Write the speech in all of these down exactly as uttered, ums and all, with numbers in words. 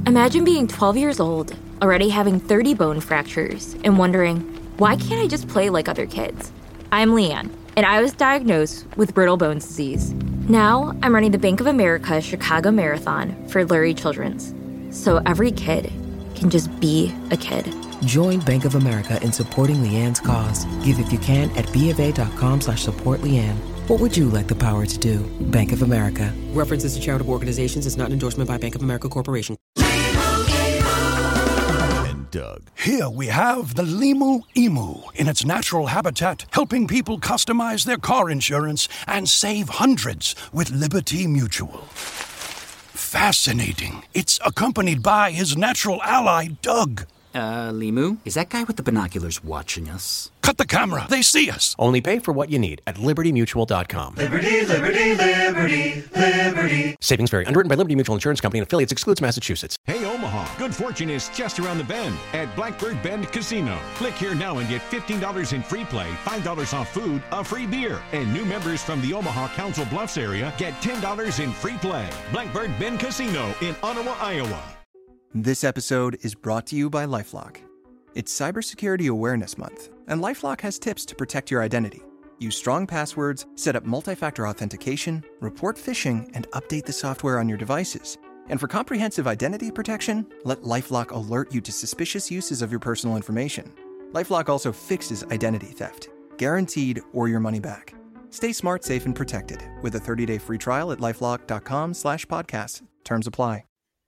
Imagine being twelve years old, already having thirty bone fractures, and wondering, why can't I just play like other kids? I'm Leanne, and I was diagnosed with brittle bones disease. Now, I'm running the Bank of America Chicago Marathon for Lurie Children's, so every kid can just be a kid. Join Bank of America in supporting Leanne's cause. Give if you can at BofA.com slash support Leanne. What would you like the power to do? Bank of America. References to charitable organizations is not an endorsement by Bank of America Corporation. And Doug. Here we have the Limu Emu in its natural habitat, helping people customize their car insurance and save hundreds with Liberty Mutual. Fascinating. It's accompanied by his natural ally, Doug. Uh, Limu? Is that guy with the binoculars watching us? Cut the camera. They see us. Only pay for what you need at liberty mutual dot com. Liberty, liberty, liberty, liberty. Savings vary. Underwritten by Liberty Mutual Insurance Company and affiliates. Excludes Massachusetts. Hey, Omaha. Good fortune is just around the bend at Blackbird Bend Casino. Click here now and get fifteen dollars in free play, five dollars off food, a free beer. And new members from the Omaha Council Bluffs area get ten dollars in free play. Blackbird Bend Casino in Ottawa, Iowa. This episode is brought to you by LifeLock. It's Cybersecurity Awareness Month, and LifeLock has tips to protect your identity. Use strong passwords, set up multi-factor authentication, report phishing, and update the software on your devices. And for comprehensive identity protection, let LifeLock alert you to suspicious uses of your personal information. LifeLock also fixes identity theft, guaranteed or your money back. Stay smart, safe, and protected with a thirty-day free trial at lifelock.com slash podcast. Terms apply.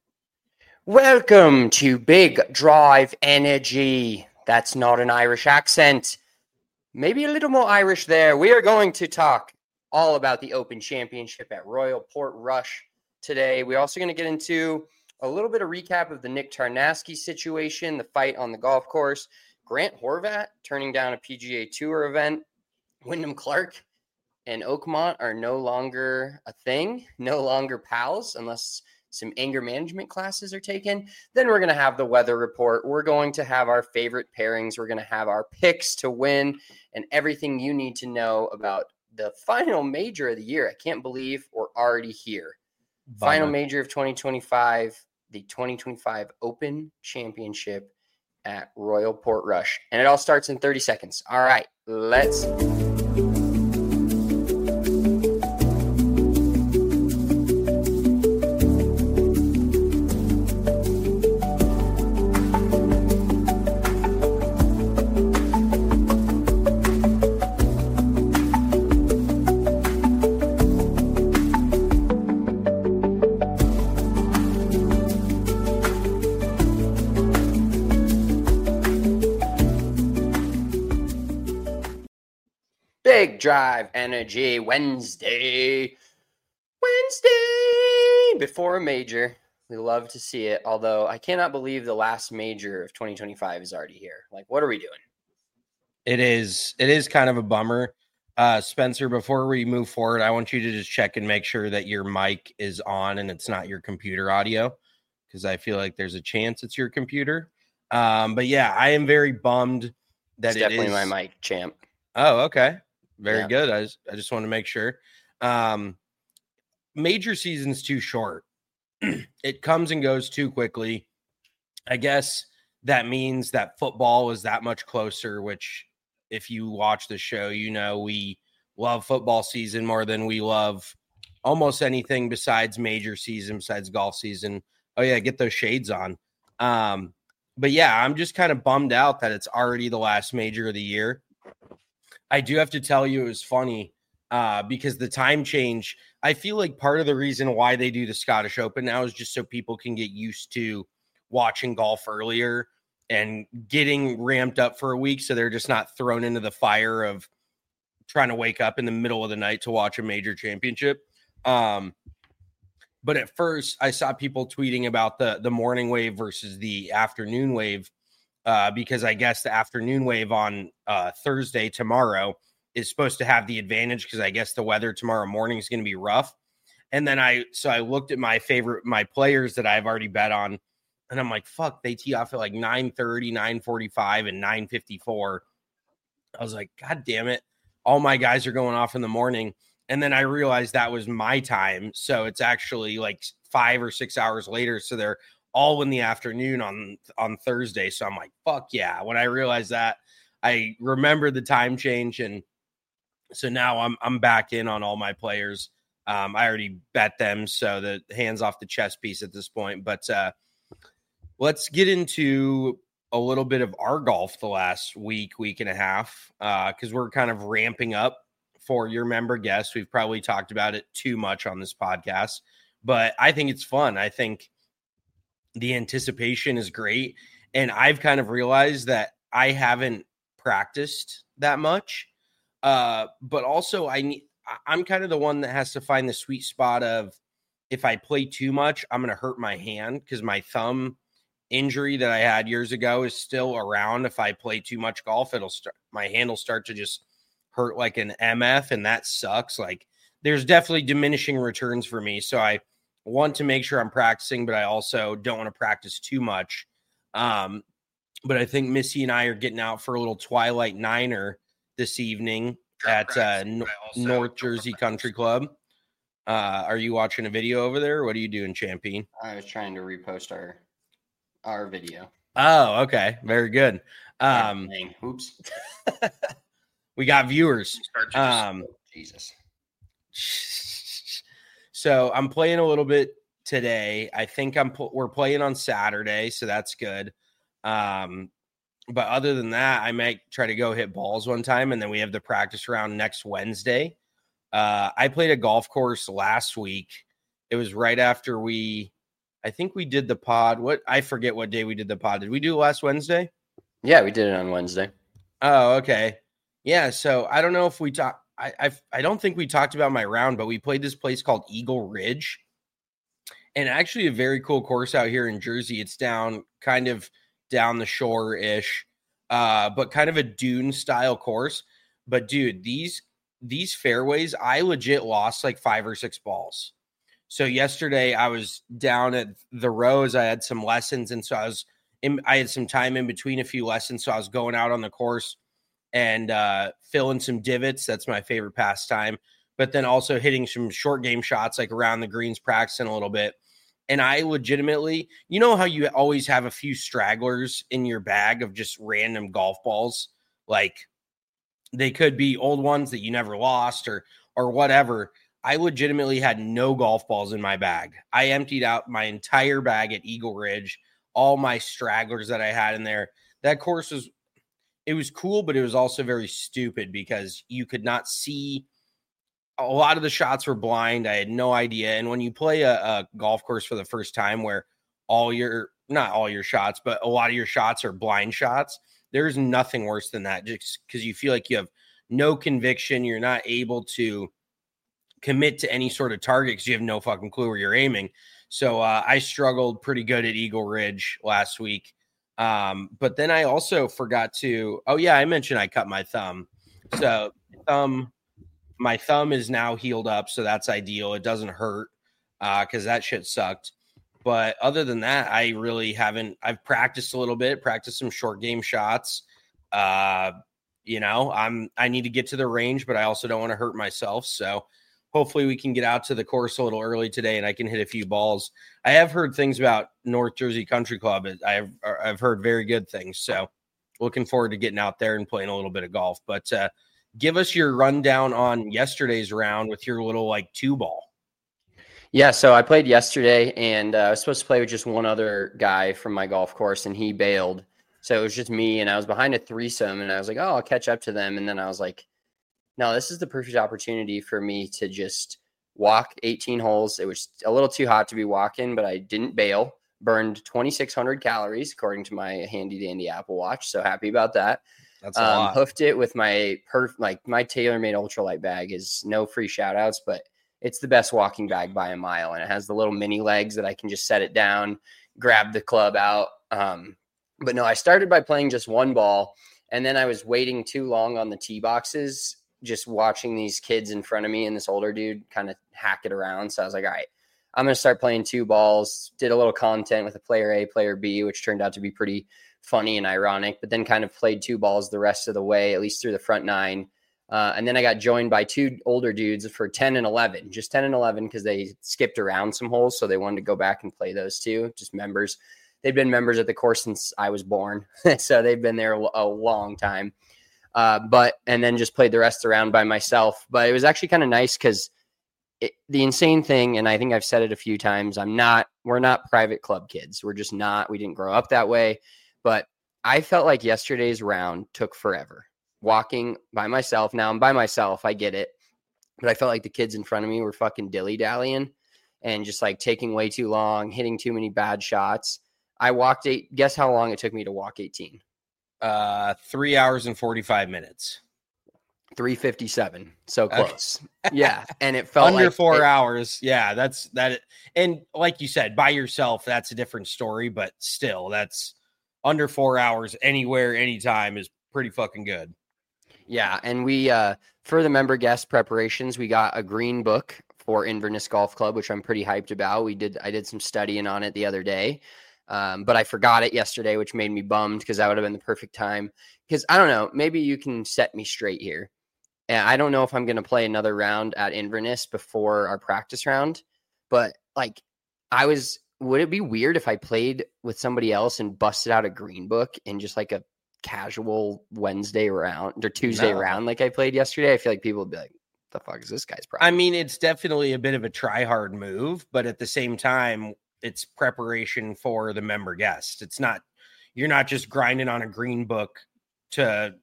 Welcome to Big Drive Energy. That's not an Irish accent. Maybe a little more Irish there. We are going to talk all about the Open Championship at Royal Portrush today. We're also going to get into a little bit of recap of the Nick Tarnasky situation, the fight on the golf course, Grant Horvat turning down a P G A Tour event, Wyndham Clark and Oakmont are no longer a thing, no longer pals, unless some anger management classes are taken. Then we're going to have the weather report. We're going to have our favorite pairings. We're going to have our picks to win and everything you need to know about the final major of the year. I can't believe we're already here. Bummer. Final major of twenty twenty-five, the twenty twenty-five Open Championship at Royal Portrush. And it all starts in thirty seconds. All right, let's Big Drive Energy Wednesday. Wednesday before a major. We love to see it, although I cannot believe the last major of twenty twenty-five is already here. Like, what are we doing? It is it is kind of a bummer. Uh, Spencer, before we move forward, I want you to just check and make sure that your mic is on and it's not your computer audio, because I feel like there's a chance it's your computer. Um, but yeah, I am very bummed that it's it definitely is... my mic, champ. Oh, okay. Very yeah. good. I just, I just want to make sure. Um, major season's too short. It comes and goes too quickly. I guess that means that football is that much closer, which if you watch the show, you know, we love football season more than we love almost anything besides major season, besides golf season. Oh yeah, get those shades on. Um, but yeah, I'm just kind of bummed out that it's already the last major of the year. I do have to tell you, it was funny uh, because the time change, I feel like part of the reason why they do the Scottish Open now is just so people can get used to watching golf earlier and getting ramped up for a week. So they're just not thrown into the fire of trying to wake up in the middle of the night to watch a major championship. Um, but at first I saw people tweeting about the, the morning wave versus the afternoon wave. Uh, because I guess the afternoon wave on uh, Thursday tomorrow is supposed to have the advantage because I guess the weather tomorrow morning is going to be rough. And then I, so I looked at my favorite, my players that I've already bet on, and I'm like, fuck, they tee off at like nine thirty, nine forty-five, and nine fifty-four. I was like, God damn it. All my guys are going off in the morning. And then I realized that was my time. So it's actually like five or six hours later. So they're all in the afternoon on on Thursday. So I'm like, fuck yeah. When I realized that, I remembered the time change, and so now I'm I'm back in on all my players. Um, I already bet them, so the hands off the chess piece at this point. But uh, let's get into a little bit of our golf the last week, week and a half, because uh, we're kind of ramping up for your member guests. We've probably talked about it too much on this podcast, but I think it's fun. I think the anticipation is great. And I've kind of realized that I haven't practiced that much. Uh, but also I need, I'm kind of the one that has to find the sweet spot of, if I play too much, I'm going to hurt my hand, because my thumb injury that I had years ago is still around. If I play too much golf, it'll start, my hand will start to just hurt like an M F, and that sucks. Like, there's definitely diminishing returns for me. So I want to make sure I'm practicing, but I also don't want to practice too much. Um, but I think Missy and I are getting out for a little Twilight Niner this evening at uh, N- North Jersey Country Club. Uh, are you watching a video over there? Or what are you doing, Champine? I was trying to repost our our video. Oh, okay. Very good. Um, Oops. We got viewers. Um, Jesus. So I'm playing a little bit today. I think I'm we're playing on Saturday, so that's good. Um, but other than that, I might try to go hit balls one time, and then we have the practice round next Wednesday. Uh, I played a golf course last week. It was right after we, I think we did the pod. What I forget what day we did the pod. Did we do it last Wednesday? Yeah, we did it on Wednesday. Oh, okay. Yeah. So I don't know if we talk. I I've, I don't think we talked about my round, but we played this place called Eagle Ridge, and actually a very cool course out here in Jersey. It's down kind of down the shore ish, uh, but kind of a dune style course. But dude, these these fairways, I legit lost like five or six balls. So yesterday I was down at the Rose. I had some lessons, and so I was in, I had some time in between a few lessons, so I was going out on the course and uh, filling some divots. That's my favorite pastime. But then also hitting some short game shots, like around the greens, practicing a little bit. And I legitimately, you know how you always have a few stragglers in your bag of just random golf balls? Like, they could be old ones that you never lost or or whatever. I legitimately had no golf balls in my bag. I emptied out my entire bag at Eagle Ridge, all my stragglers that I had in there. That course was, it was cool, but it was also very stupid because you could not see. A lot of the shots were blind. I had no idea. And when you play a, a golf course for the first time where all your, not all your shots, but a lot of your shots are blind shots, there's nothing worse than that, just because you feel like you have no conviction. You're not able to commit to any sort of target because you have no fucking clue where you're aiming. So uh, I struggled pretty good at Eagle Ridge last week. Um, but then I also forgot to, oh yeah, I mentioned I cut my thumb. So thumb, my thumb is now healed up. So that's ideal. It doesn't hurt uh, because that shit sucked. But other than that, I really haven't. I've practiced a little bit, practiced some short game shots. Uh, you know, I'm I need to get to the range, but I also don't want to hurt myself. So hopefully we can get out to the course a little early today and I can hit a few balls. I have heard things about North Jersey Country Club. I've I've heard very good things. So looking forward to getting out there and playing a little bit of golf. But uh, give us your rundown on yesterday's round with your little like two ball. Yeah, so I played yesterday, and uh, I was supposed to play with just one other guy from my golf course, and he bailed. So it was just me, and I was behind a threesome, and I was like, oh, I'll catch up to them. And then I was like, no, this is the perfect opportunity for me to just walk eighteen holes. It was a little too hot to be walking, but I didn't bail. Burned twenty-six hundred calories, according to my handy-dandy Apple Watch. So happy about that. That's a um, lot. Hoofed it with my, perf- like my TaylorMade ultralight bag is no free shout-outs, but it's the best walking bag by a mile, and it has the little mini legs that I can just set it down, grab the club out. Um, but no, I started by playing just one ball, and then I was waiting too long on the tee boxes, just watching these kids in front of me and this older dude kind of hack it around. So I was like, all right, I'm going to start playing two balls. Did a little content with a player A, player B, which turned out to be pretty funny and ironic, but then kind of played two balls the rest of the way, at least through the front nine. Uh, and then I got joined by two older dudes for ten and eleven, just ten and eleven, because they skipped around some holes. So they wanted to go back and play those two, just members. They've been members at the course since I was born. So they've been there a, a long time. Uh, but, and then just played the rest around by myself. But it was actually kind of nice because the insane thing, and I think I've said it a few times, I'm not, we're not private club kids. We're just not, we didn't grow up that way. But I felt like yesterday's round took forever. Walking by myself. Now I'm by myself. I get it. But I felt like the kids in front of me were fucking dilly-dallying and just like taking way too long, hitting too many bad shots. I walked eight. Guess how long it took me to walk eighteen? Uh, three hours and forty-five minutes. three fifty-seven. So close. Yeah. And it felt under like four it, hours. Yeah. That's that. And like you said, by yourself, that's a different story, but still that's under four hours anywhere, anytime is pretty fucking good. Yeah. And we, uh, for the member guest preparations, we got a green book for Inverness Golf Club, which I'm pretty hyped about. We did, I did some studying on it the other day. Um, but I forgot it yesterday, which made me bummed because that would have been the perfect time. Because I don't know, maybe you can set me straight here. And I don't know if I'm going to play another round at Inverness before our practice round, but like I was, would it be weird if I played with somebody else and busted out a green book in just like a casual Wednesday round or Tuesday No. round like I played yesterday? I feel like people would be like, the fuck is this guy's problem? I mean, it's definitely a bit of a try hard move, but at the same time, it's preparation for the member guest. It's not, you're not just grinding on a green book to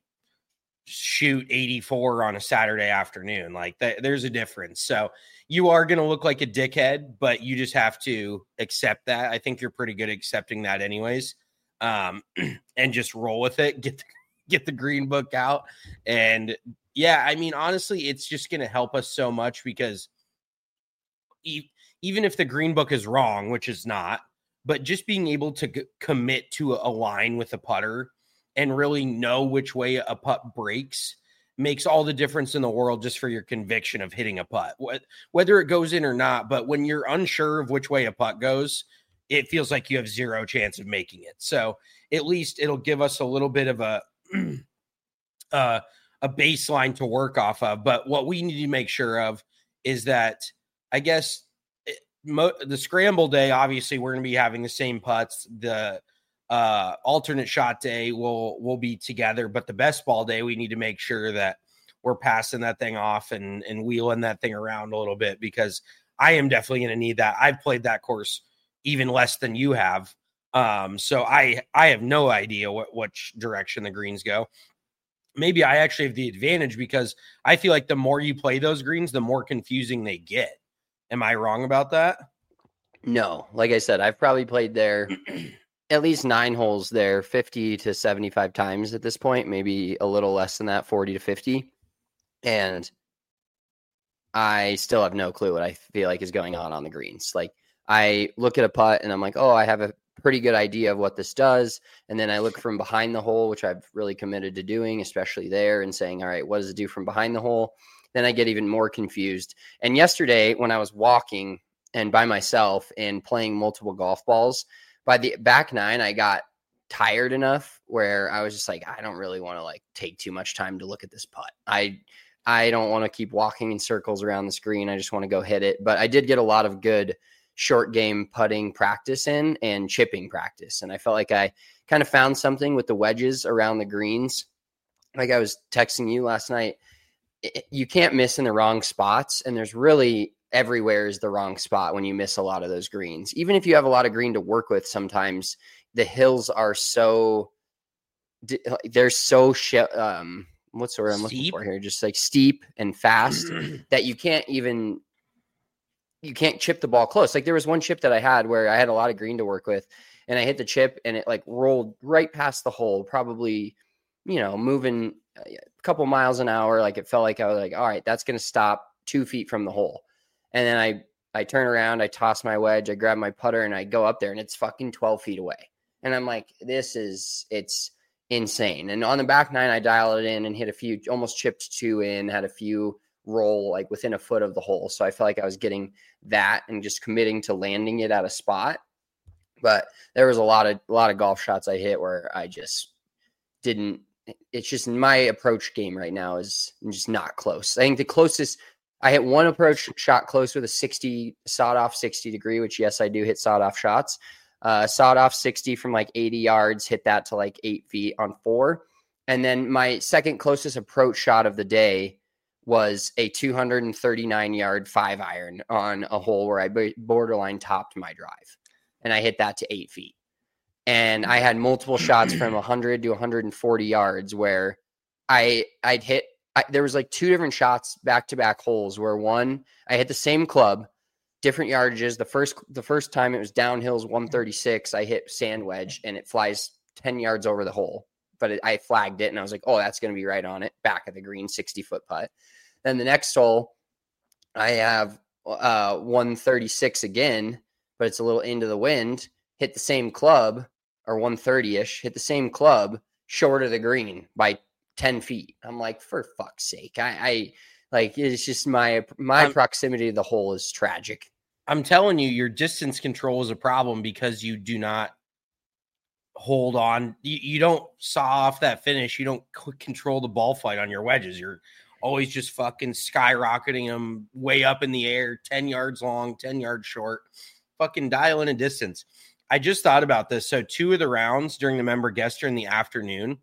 shoot eighty-four on a Saturday afternoon. Like th- there's a difference. So you are going to look like a dickhead, but you just have to accept that. I think you're pretty good at accepting that anyways. Um, and just roll with it, get, the, get the green book out. And yeah, I mean, honestly, it's just going to help us so much because e- even if the green book is wrong, which is not, but just being able to g- commit to a, a line with a putter and really know which way a putt breaks makes all the difference in the world just for your conviction of hitting a putt, whether it goes in or not. But when you're unsure of which way a putt goes, it feels like you have zero chance of making it. So at least it'll give us a little bit of a, uh, a baseline to work off of. But what we need to make sure of is that, I guess, Mo- the scramble day, obviously we're going to be having the same putts. The uh, alternate shot day will will be together, but the best ball day, we need to make sure that we're passing that thing off and and wheeling that thing around a little bit, because I am definitely going to need that. I've played that course even less than you have, um, so I I have no idea what which direction the greens go. Maybe I actually have the advantage because I feel like the more you play those greens, the more confusing they get. Am I wrong about that? No, like I said, I've probably played there at least nine holes there, fifty to seventy-five times at this point, maybe a little less than that, forty to fifty. And I still have no clue what I feel like is going on on the greens. Like I look at a putt and I'm like, oh, I have a pretty good idea of what this does. And then I look from behind the hole, which I've really committed to doing, especially there, and saying, all right, what does it do from behind the hole? Then I get even more confused. And yesterday when I was walking and by myself and playing multiple golf balls, by the back nine, I got tired enough where I was just like, I don't really want to like take too much time to look at this putt. I, I don't want to keep walking in circles around the screen. I just want to go hit it. But I did get a lot of good short game putting practice in and chipping practice. And I felt like I kind of found something with the wedges around the greens. Like I was texting you last night, you can't miss in the wrong spots. And there's really everywhere is the wrong spot when you miss a lot of those greens. Even if you have a lot of green to work with, sometimes the hills are so, they're so, sh- um, what's the word I'm looking for here? Just like steep and fast that you can't even, you can't chip the ball close. Like there was one chip that I had where I had a lot of green to work with and I hit the chip and it like rolled right past the hole, probably, you know, moving a couple miles an hour. Like it felt like I was like, all right, that's going to stop two feet from the hole. And then I, I turn around, I toss my wedge, I grab my putter and I go up there and it's fucking twelve feet away. And I'm like, this is, it's insane. And on the back nine, I dialed it in and hit a few, almost chipped two in, had a few roll like within a foot of the hole. So I felt like I was getting that and just committing to landing it at a spot. But there was a lot of, a lot of golf shots I hit where I just didn't, it's just my approach game right now is just not close. I think the closest I hit one approach shot close with a sixty sawed off sixty degree, which yes, I do hit sawed off shots. Uh, sawed off sixty from like eighty yards, hit that to like eight feet on four. And then my second closest approach shot of the day was a two hundred thirty-nine yard five iron on a hole where I borderline topped my drive. And I hit that to eight feet. And I had multiple shots from one hundred to one hundred forty yards where I, I'd hit, I, there was like two different shots back-to-back holes where one, I hit the same club, different yardages. The first, the first time it was downhills one thirty-six, I hit sand wedge and it flies ten yards over the hole. But it, I flagged it and I was like, oh, that's going to be right on it. Back of the green, sixty foot putt. Then the next hole, I have uh, one thirty-six again, but it's a little into the wind. Hit the same club, or one thirty-ish, hit the same club, short of the green by ten feet. I'm like, for fuck's sake. I, I like, it's just my, my I'm, proximity to the hole is tragic. I'm telling you, your distance control is a problem because you do not hold on. You, you don't saw off that finish. You don't c- control the ball flight on your wedges. You're always just fucking skyrocketing them way up in the air, ten yards long, ten yards short, fucking dial in a distance. I just thought about this. So two of the rounds during the member guester in the afternoon,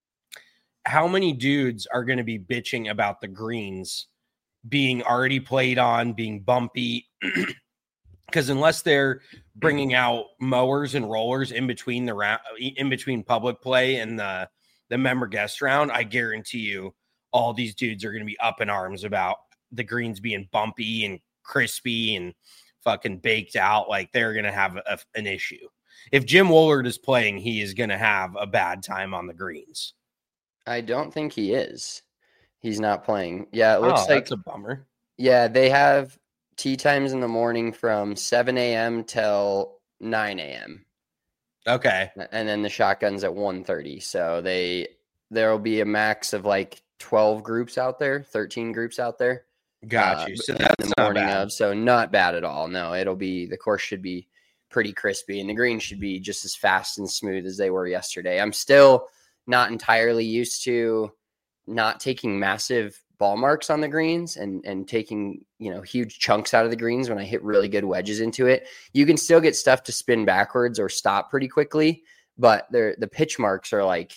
how many dudes are going to be bitching about the greens being already played on, being bumpy? Because unless they're bringing out mowers and rollers in between the round, in between public play and the, the member guest round, I guarantee you all these dudes are going to be up in arms about the greens being bumpy and crispy and fucking baked out. Like they're going to have a, an issue. If Jim Woolard is playing, he is going to have a bad time on the greens. I don't think he is. He's not playing. Yeah, it looks oh, like that's a bummer. Yeah, they have tee times in the morning from seven a.m. till nine a.m. Okay. And then the shotgun's at one thirty. So they there will be a max of like twelve groups out there, thirteen groups out there. Got you. Uh, so that's the not morning bad. of. So not bad at all. No, it'll be the course should be pretty crispy and the greens should be just as fast and smooth as they were yesterday. I'm still not entirely used to not taking massive ball marks on the greens and, and taking, you know, huge chunks out of the greens when I hit really good wedges into it. You can still get stuff to spin backwards or stop pretty quickly, but they're, the pitch marks are like,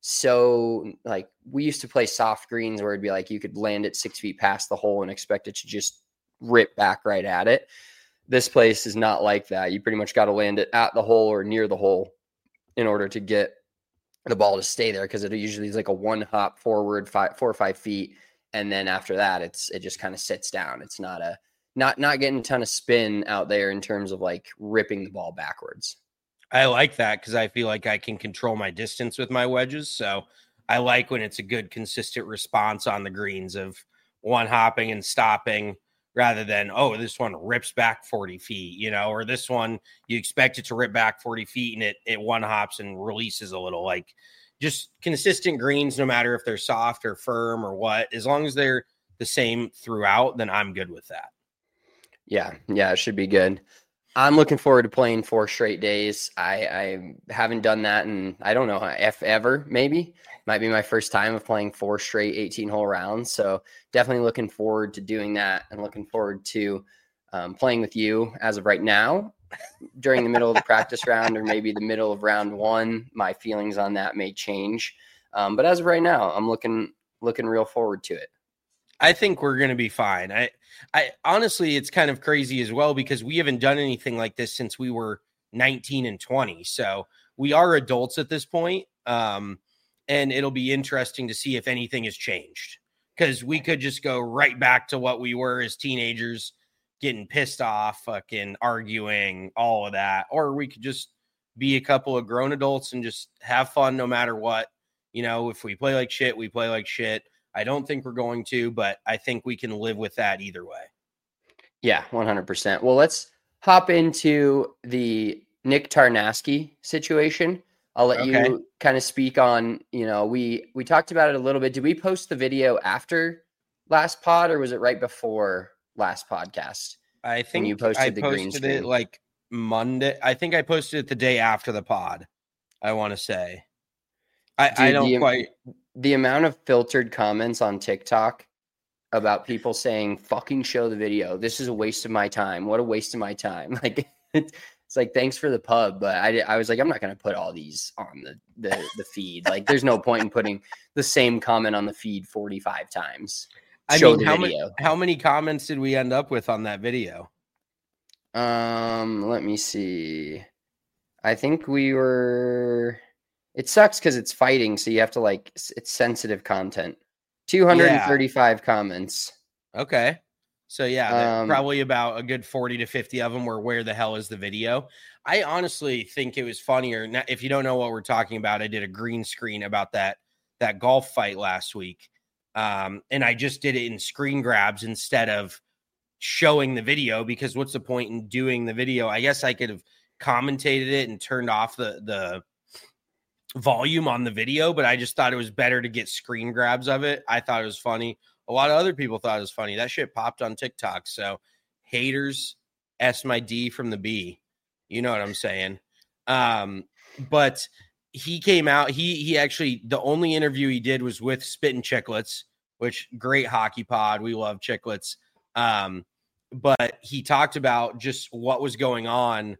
so like we used to play soft greens where it'd be like, you could land it six feet past the hole and expect it to just rip back right at it. This place is not like that. You pretty much got to land it at the hole or near the hole in order to get the ball to stay there. Cause it usually is like a one hop forward, five, four or five feet. And then after that, it's, it just kind of sits down. It's not a, not, not getting a ton of spin out there in terms of like ripping the ball backwards. I like that because I feel like I can control my distance with my wedges. So I like when it's a good, consistent response on the greens of one hopping and stopping rather than, oh, this one rips back forty feet, you know, or this one, you expect it to rip back forty feet and it, it one hops and releases a little. Like just consistent greens, no matter if they're soft or firm or what, as long as they're the same throughout, then I'm good with that. Yeah. Yeah. It should be good. I'm looking forward to playing four straight days. I, I haven't done that in, I don't know, if ever, maybe. Might be my first time of playing four straight eighteen-hole rounds. So definitely looking forward to doing that and looking forward to um, playing with you as of right now during the middle of the practice round or maybe the middle of round one. My feelings on that may change. Um, but as of right now, I'm looking looking real forward to it. I think we're going to be fine. I, I honestly, it's kind of crazy as well because we haven't done anything like this since we were nineteen and twenty. So we are adults at this point. Um, and it'll be interesting to see if anything has changed because we could just go right back to what we were as teenagers, getting pissed off, fucking arguing, all of that. Or we could just be a couple of grown adults and just have fun no matter what. You know, if we play like shit, we play like shit. I don't think we're going to, but I think we can live with that either way. Yeah, one hundred percent. Well, let's hop into the Nick Tarnasky situation. I'll let okay. you kind of speak on, you know, we, we talked about it a little bit. Did we post the video after last pod or was it right before last podcast? I think you posted I the posted green screen? it like Monday. I think I posted it the day after the pod. I want to say. I, Dude, I don't the, quite. The amount of filtered comments on TikTok about people saying, fucking show the video. This is a waste of my time. What a waste of my time. Like, it's like, thanks for the pub. But I, I was like, I'm not going to put all these on the, the, the feed. Like, there's no point in putting the same comment on the feed forty-five times. I Show mean, the how video. many, how many comments did we end up with on that video? Um, let me see. I think we were, it sucks because it's fighting. So you have to like, it's sensitive content. two hundred thirty-five yeah. comments. Okay. So yeah, Um, probably about a good forty to fifty of them were where the hell is the video? I honestly think it was funnier. Now, if you don't know what we're talking about, I did a green screen about that, that golf fight last week. Um, and I just did it in screen grabs instead of showing the video, because what's the point in doing the video? I guess I could have commentated it and turned off the, the volume on the video, but I just thought it was better to get screen grabs of it. I thought it was funny. A lot of other people thought it was funny. That shit popped on TikTok. So haters, S my D from the B. You know what I'm saying? Um, but he came out. He he actually, the only interview he did was with Spittin' Chicklets, which great hockey pod. We love Chicklets. Um, but he talked about just what was going on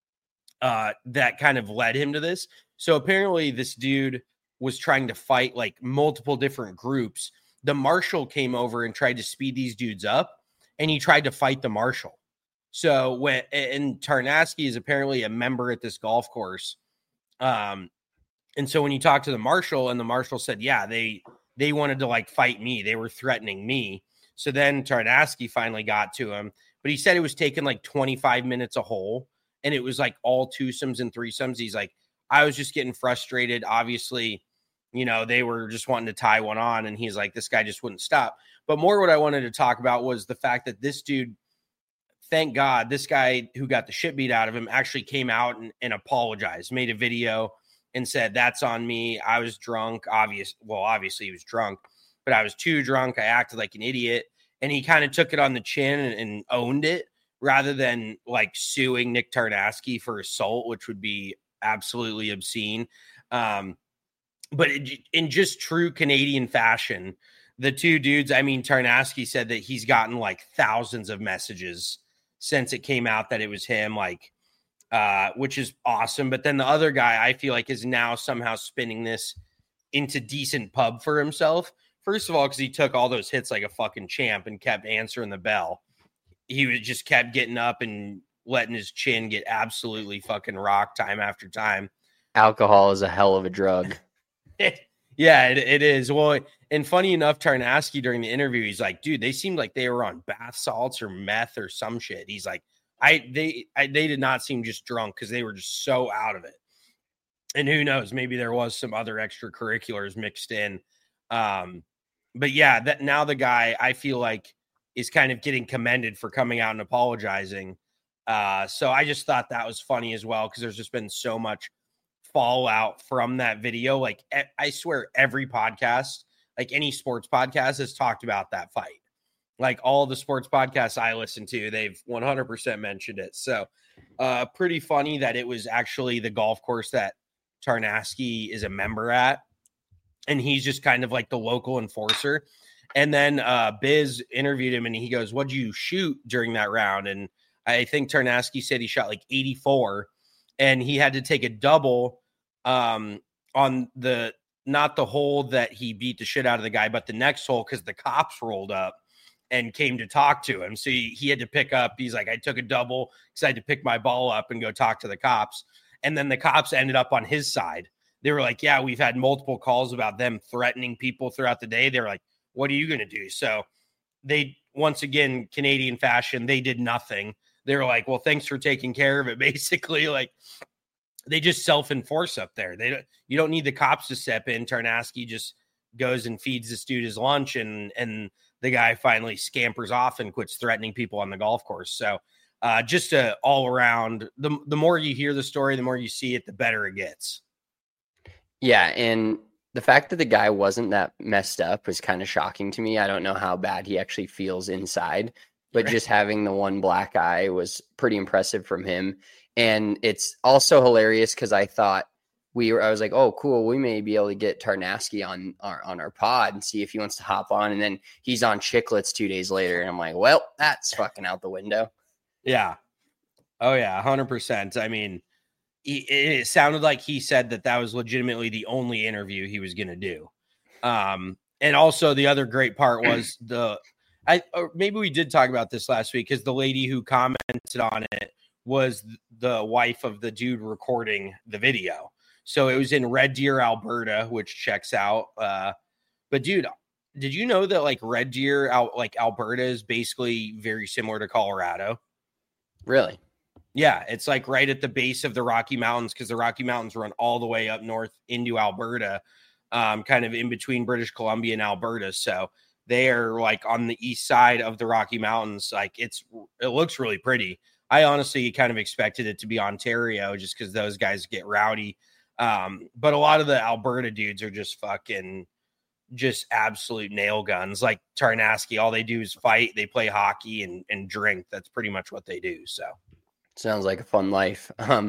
uh, that kind of led him to this. So apparently this dude was trying to fight like multiple different groups. The marshal came over and tried to speed these dudes up, and he tried to fight the marshal. So when, and Tarnasky is apparently a member at this golf course. Um, and so when you talk to the marshal, and the marshal said, yeah, they, they wanted to like fight me. They were threatening me. So then Tarnasky finally got to him, but he said it was taking like twenty-five minutes a hole, and it was like all twosomes and threesomes. He's like, I was just getting frustrated. Obviously, you know, they were just wanting to tie one on, and he's like, this guy just wouldn't stop. But more what I wanted to talk about was the fact that this dude, thank God, this guy who got the shit beat out of him actually came out and, and apologized, made a video and said, that's on me. I was drunk. Obvious. Well, obviously he was drunk, but I was too drunk. I acted like an idiot. And he kind of took it on the chin and, and owned it, rather than like suing Nick Tarnasky for assault, which would be absolutely obscene. Um, but it, in just true Canadian fashion, the two dudes, I mean, Tarnasky said that he's gotten like thousands of messages since it came out that it was him, like, uh, which is awesome. But then the other guy, I feel like, is now somehow spinning this into decent pub for himself. First of all, because he took all those hits like a fucking champ and kept answering the bell. He was just kept getting up and letting his chin get absolutely fucking rocked time after time. Alcohol is a hell of a drug. Yeah, it, it is. Well, and funny enough, Tarnasky during the interview, he's like, dude, they seemed like they were on bath salts or meth or some shit. He's like, I they I, they did not seem just drunk, because they were just so out of it. And who knows, maybe there was some other extracurriculars mixed in. Um, but yeah, that now the guy, I feel like, is kind of getting commended for coming out and apologizing. Uh, so I just thought that was funny as well, because there's just been so much fallout from that video. Like, I swear every podcast, like any sports podcast, has talked about that fight. Like all the sports podcasts I listen to, they've one hundred percent mentioned it. So uh, pretty funny that it was actually the golf course that Tarnasky is a member at, and he's just kind of like the local enforcer. And then uh, Biz interviewed him, and he goes, what'd you shoot during that round? And I think Tarnasky said he shot like eighty-four, and he had to take a double um, on the, not the hole that he beat the shit out of the guy, but the next hole, because the cops rolled up and came to talk to him. So he, he had to pick up, he's like, I took a double because I had to pick my ball up and go talk to the cops. And then the cops ended up on his side. They were like, yeah, we've had multiple calls about them threatening people throughout the day. They were like, what are you going to do? So they, once again, Canadian fashion, they did nothing. They were like, well, thanks for taking care of it. Basically, like, they just self-enforce up there. They don't, you don't need the cops to step in. Tarnasky just goes and feeds this dude his lunch, and, and the guy finally scampers off and quits threatening people on the golf course. So uh, just a all around, the, the more you hear the story, the more you see it, the better it gets. Yeah. And the fact that the guy wasn't that messed up was kind of shocking to me. I don't know how bad he actually feels inside, but right. Just having the one black eye was pretty impressive from him. And it's also hilarious because I thought we were, I was like, oh, cool. We may be able to get Tarnasky on our, on our pod and see if he wants to hop on. And then he's on Chicklets two days later. And I'm like, well, that's fucking out the window. Yeah. Oh yeah. A hundred percent. I mean, he, it sounded like he said that that was legitimately the only interview he was going to do. Um, and also the other great part was the, I, or maybe we did talk about this last week, because the lady who commented on it was the wife of the dude recording the video. So it was in Red Deer, Alberta, which checks out. Uh, but dude, did you know that like Red Deer, out like Alberta, is basically very similar to Colorado? Really? Yeah, it's like right at the base of the Rocky Mountains, because the Rocky Mountains run all the way up north into Alberta, um, kind of in between British Columbia and Alberta. So they are like on the east side of the Rocky Mountains. Like it's, it looks really pretty. I honestly kind of expected it to be Ontario, just because those guys get rowdy. Um, but a lot of the Alberta dudes are just fucking, just absolute nail guns. Like Tarnasky, all they do is fight. They play hockey and, and drink. That's pretty much what they do. So sounds like a fun life. Um,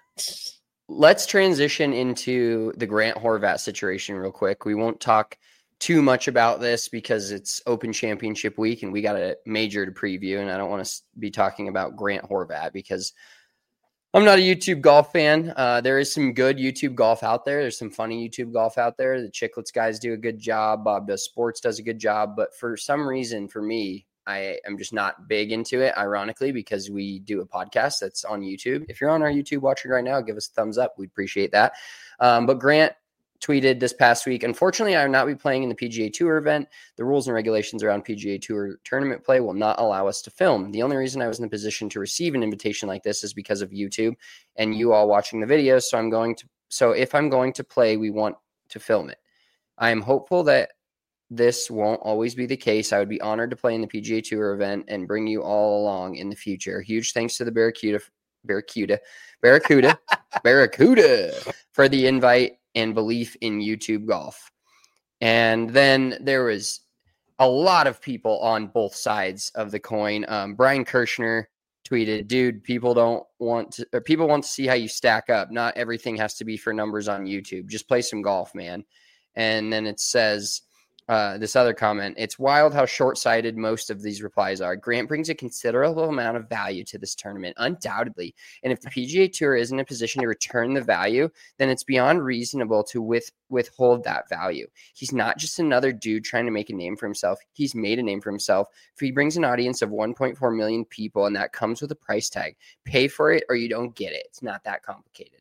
let's transition into the Grant Horvat situation real quick. We won't talk too much about this because it's Open Championship week and we got a major to preview. And I don't want to be talking about Grant Horvat because I'm not a YouTube golf fan. Uh, there is some good YouTube golf out there. There's some funny YouTube golf out there. The Chicklets guys do a good job. Bob Does Sports does a good job. But for some reason, for me, I am just not big into it, ironically, because we do a podcast that's on YouTube. If you're on our YouTube watching right now, give us a thumbs up. We'd appreciate that. Um, but Grant tweeted this past week, unfortunately, I will not be playing in the P G A Tour event. The rules and regulations around P G A Tour tournament play will not allow us to film. The only reason I was in a position to receive an invitation like this is because of YouTube and you all watching the videos. So I'm going to, so if I'm going to play, we want to film it. I am hopeful that this won't always be the case. I would be honored to play in the P G A Tour event and bring you all along in the future. Huge thanks to the Barracuda, Barracuda, Barracuda, Barracuda for the invite and belief in YouTube golf. And then there was a lot of people on both sides of the coin. Um, Brian Kirshner tweeted, dude, people don't want to, or people want to see how you stack up. Not everything has to be for numbers on YouTube. Just play some golf, man. And then it says, uh, this other comment, it's wild how short-sighted most of these replies are. Grant brings a considerable amount of value to this tournament, undoubtedly. And if the P G A Tour isn't in a position to return the value, then it's beyond reasonable to with, withhold that value. He's not just another dude trying to make a name for himself. He's made a name for himself. If he brings an audience of one point four million people, and that comes with a price tag, pay for it or you don't get it. It's not that complicated.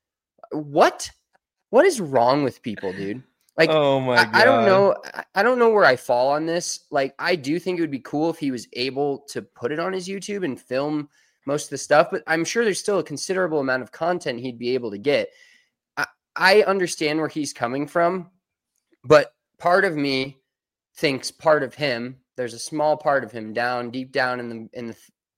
What? What is wrong with people, dude? Like, oh my God. I, I don't know. I don't know where I fall on this. Like, I do think it would be cool if he was able to put it on his YouTube and film most of the stuff, but I'm sure there's still a considerable amount of content he'd be able to get. I, I understand where he's coming from, but part of me thinks part of him, there's a small part of him down deep down in the, in the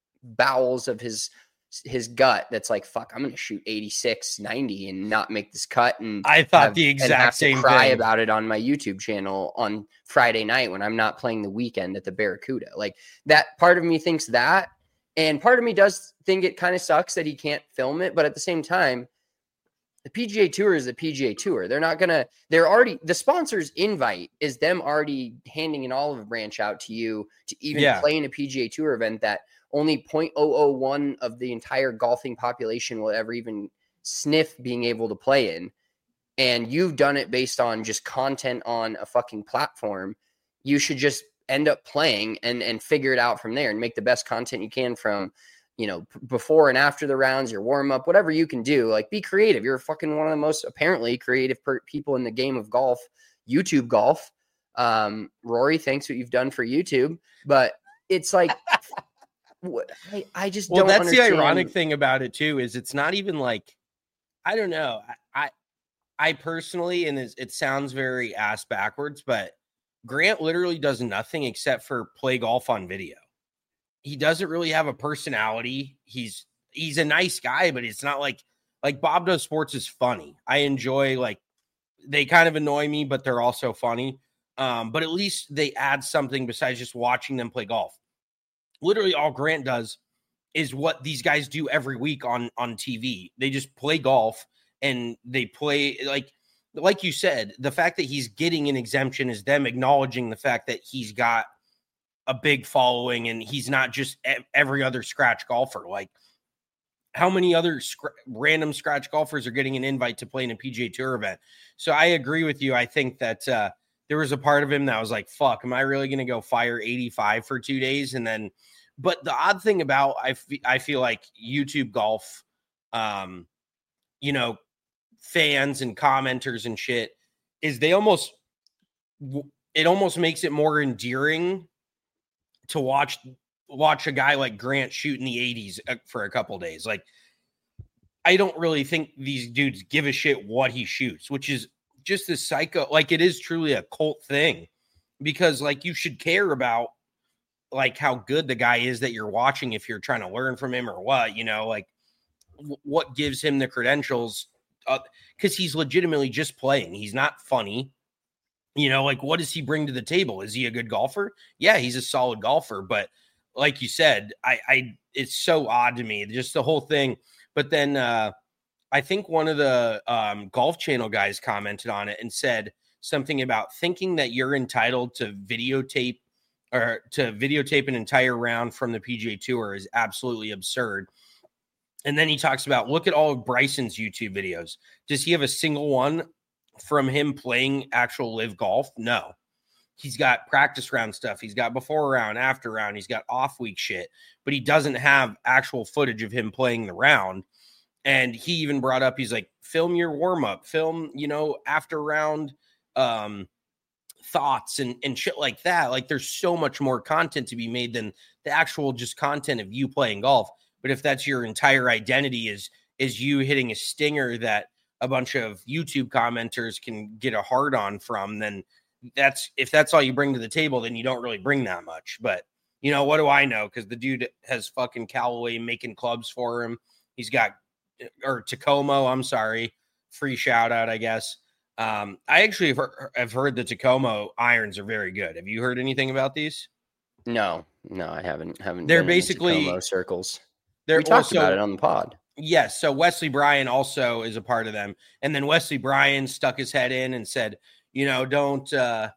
bowels of his his gut that's like, fuck, I'm gonna shoot eighty-six, ninety and not make this cut. And I thought have, the exact and have same to cry thing about it on my YouTube channel on Friday night when I'm not playing the weekend at the Barracuda. Like, that part of me thinks that, and part of me does think it kind of sucks that he can't film it, but at the same time, the P G A Tour is the P G A Tour. They're not gonna, they're already, the sponsor's invite is them already handing an olive branch out to you to even Yeah. play in a P G A Tour event that only zero point zero zero one of the entire golfing population will ever even sniff being able to play in. And you've done it based on just content on a fucking platform. You should just end up playing and, and figure it out from there and make the best content you can from, you know, p- before and after the rounds, your warm up, whatever you can do. Like, be creative. You're fucking one of the most apparently creative per- people in the game of golf, YouTube golf. Um, Rory, thanks what you've done for YouTube, but it's like, What, I, I just well, don't that's understand. the ironic thing about it too, is it's not even like, I don't know. I, I, I personally, and it sounds very ass backwards, but Grant literally does nothing except for play golf on video. He doesn't really have a personality. He's, he's a nice guy, but it's not like, like Bob Does Sports is funny. I enjoy, like, they kind of annoy me, but they're also funny. Um, but at least they add something besides just watching them play golf. Literally all Grant does is what these guys do every week on, on T V. They just play golf and they play like, like you said, the fact that he's getting an exemption is them acknowledging the fact that he's got a big following and he's not just every other scratch golfer. Like, how many other sc- random scratch golfers are getting an invite to play in a P G A Tour event? So I agree with you. I think that uh, there was a part of him that was like, fuck, am I really going to go fire eighty-five for two days? And then, but the odd thing about, I, f- I feel like YouTube golf, um, you know, fans and commenters and shit is they almost, it almost makes it more endearing to watch watch a guy like Grant shoot in the eighties for a couple days. Like, I don't really think these dudes give a shit what he shoots, which is just a psycho. Like, it is truly a cult thing, because like you should care about like how good the guy is that you're watching if you're trying to learn from him or what, you know, like w- what gives him the credentials, because uh, he's legitimately just playing. He's not funny. You know, like, what does he bring to the table? Is he a good golfer? Yeah, he's a solid golfer, but like you said, I, I, it's so odd to me, just the whole thing. But then uh, I think one of the um, Golf Channel guys commented on it and said something about thinking that you're entitled to videotape or to videotape an entire round from the P G A Tour is absolutely absurd. And then he talks about, look at all of Bryson's YouTube videos. Does he have a single one from him playing actual live golf? No. He's got practice round stuff. He's got before round, after round. He's got off week shit, but he doesn't have actual footage of him playing the round. And he even brought up, he's like, film your warm up, film, you know, after round um, thoughts and, and shit like that. Like, there's so much more content to be made than the actual just content of you playing golf. But if that's your entire identity is, is you hitting a stinger that a bunch of YouTube commenters can get a hard on from, then that's, if that's all you bring to the table, then you don't really bring that much. But, you know, what do I know? Because the dude has fucking Callaway making clubs for him. He's got, or Tacoma, I'm sorry, free shout out, I guess. Um, I actually have heard, have heard the Tacoma irons are very good. Have you heard anything about these? No, no, I haven't. Haven't. They're been basically in Tacoma circles. They're we talked also, about it on the pod. Yes. So Wesley Bryan also is a part of them. And then Wesley Bryan stuck his head in and said, you know, don't, uh,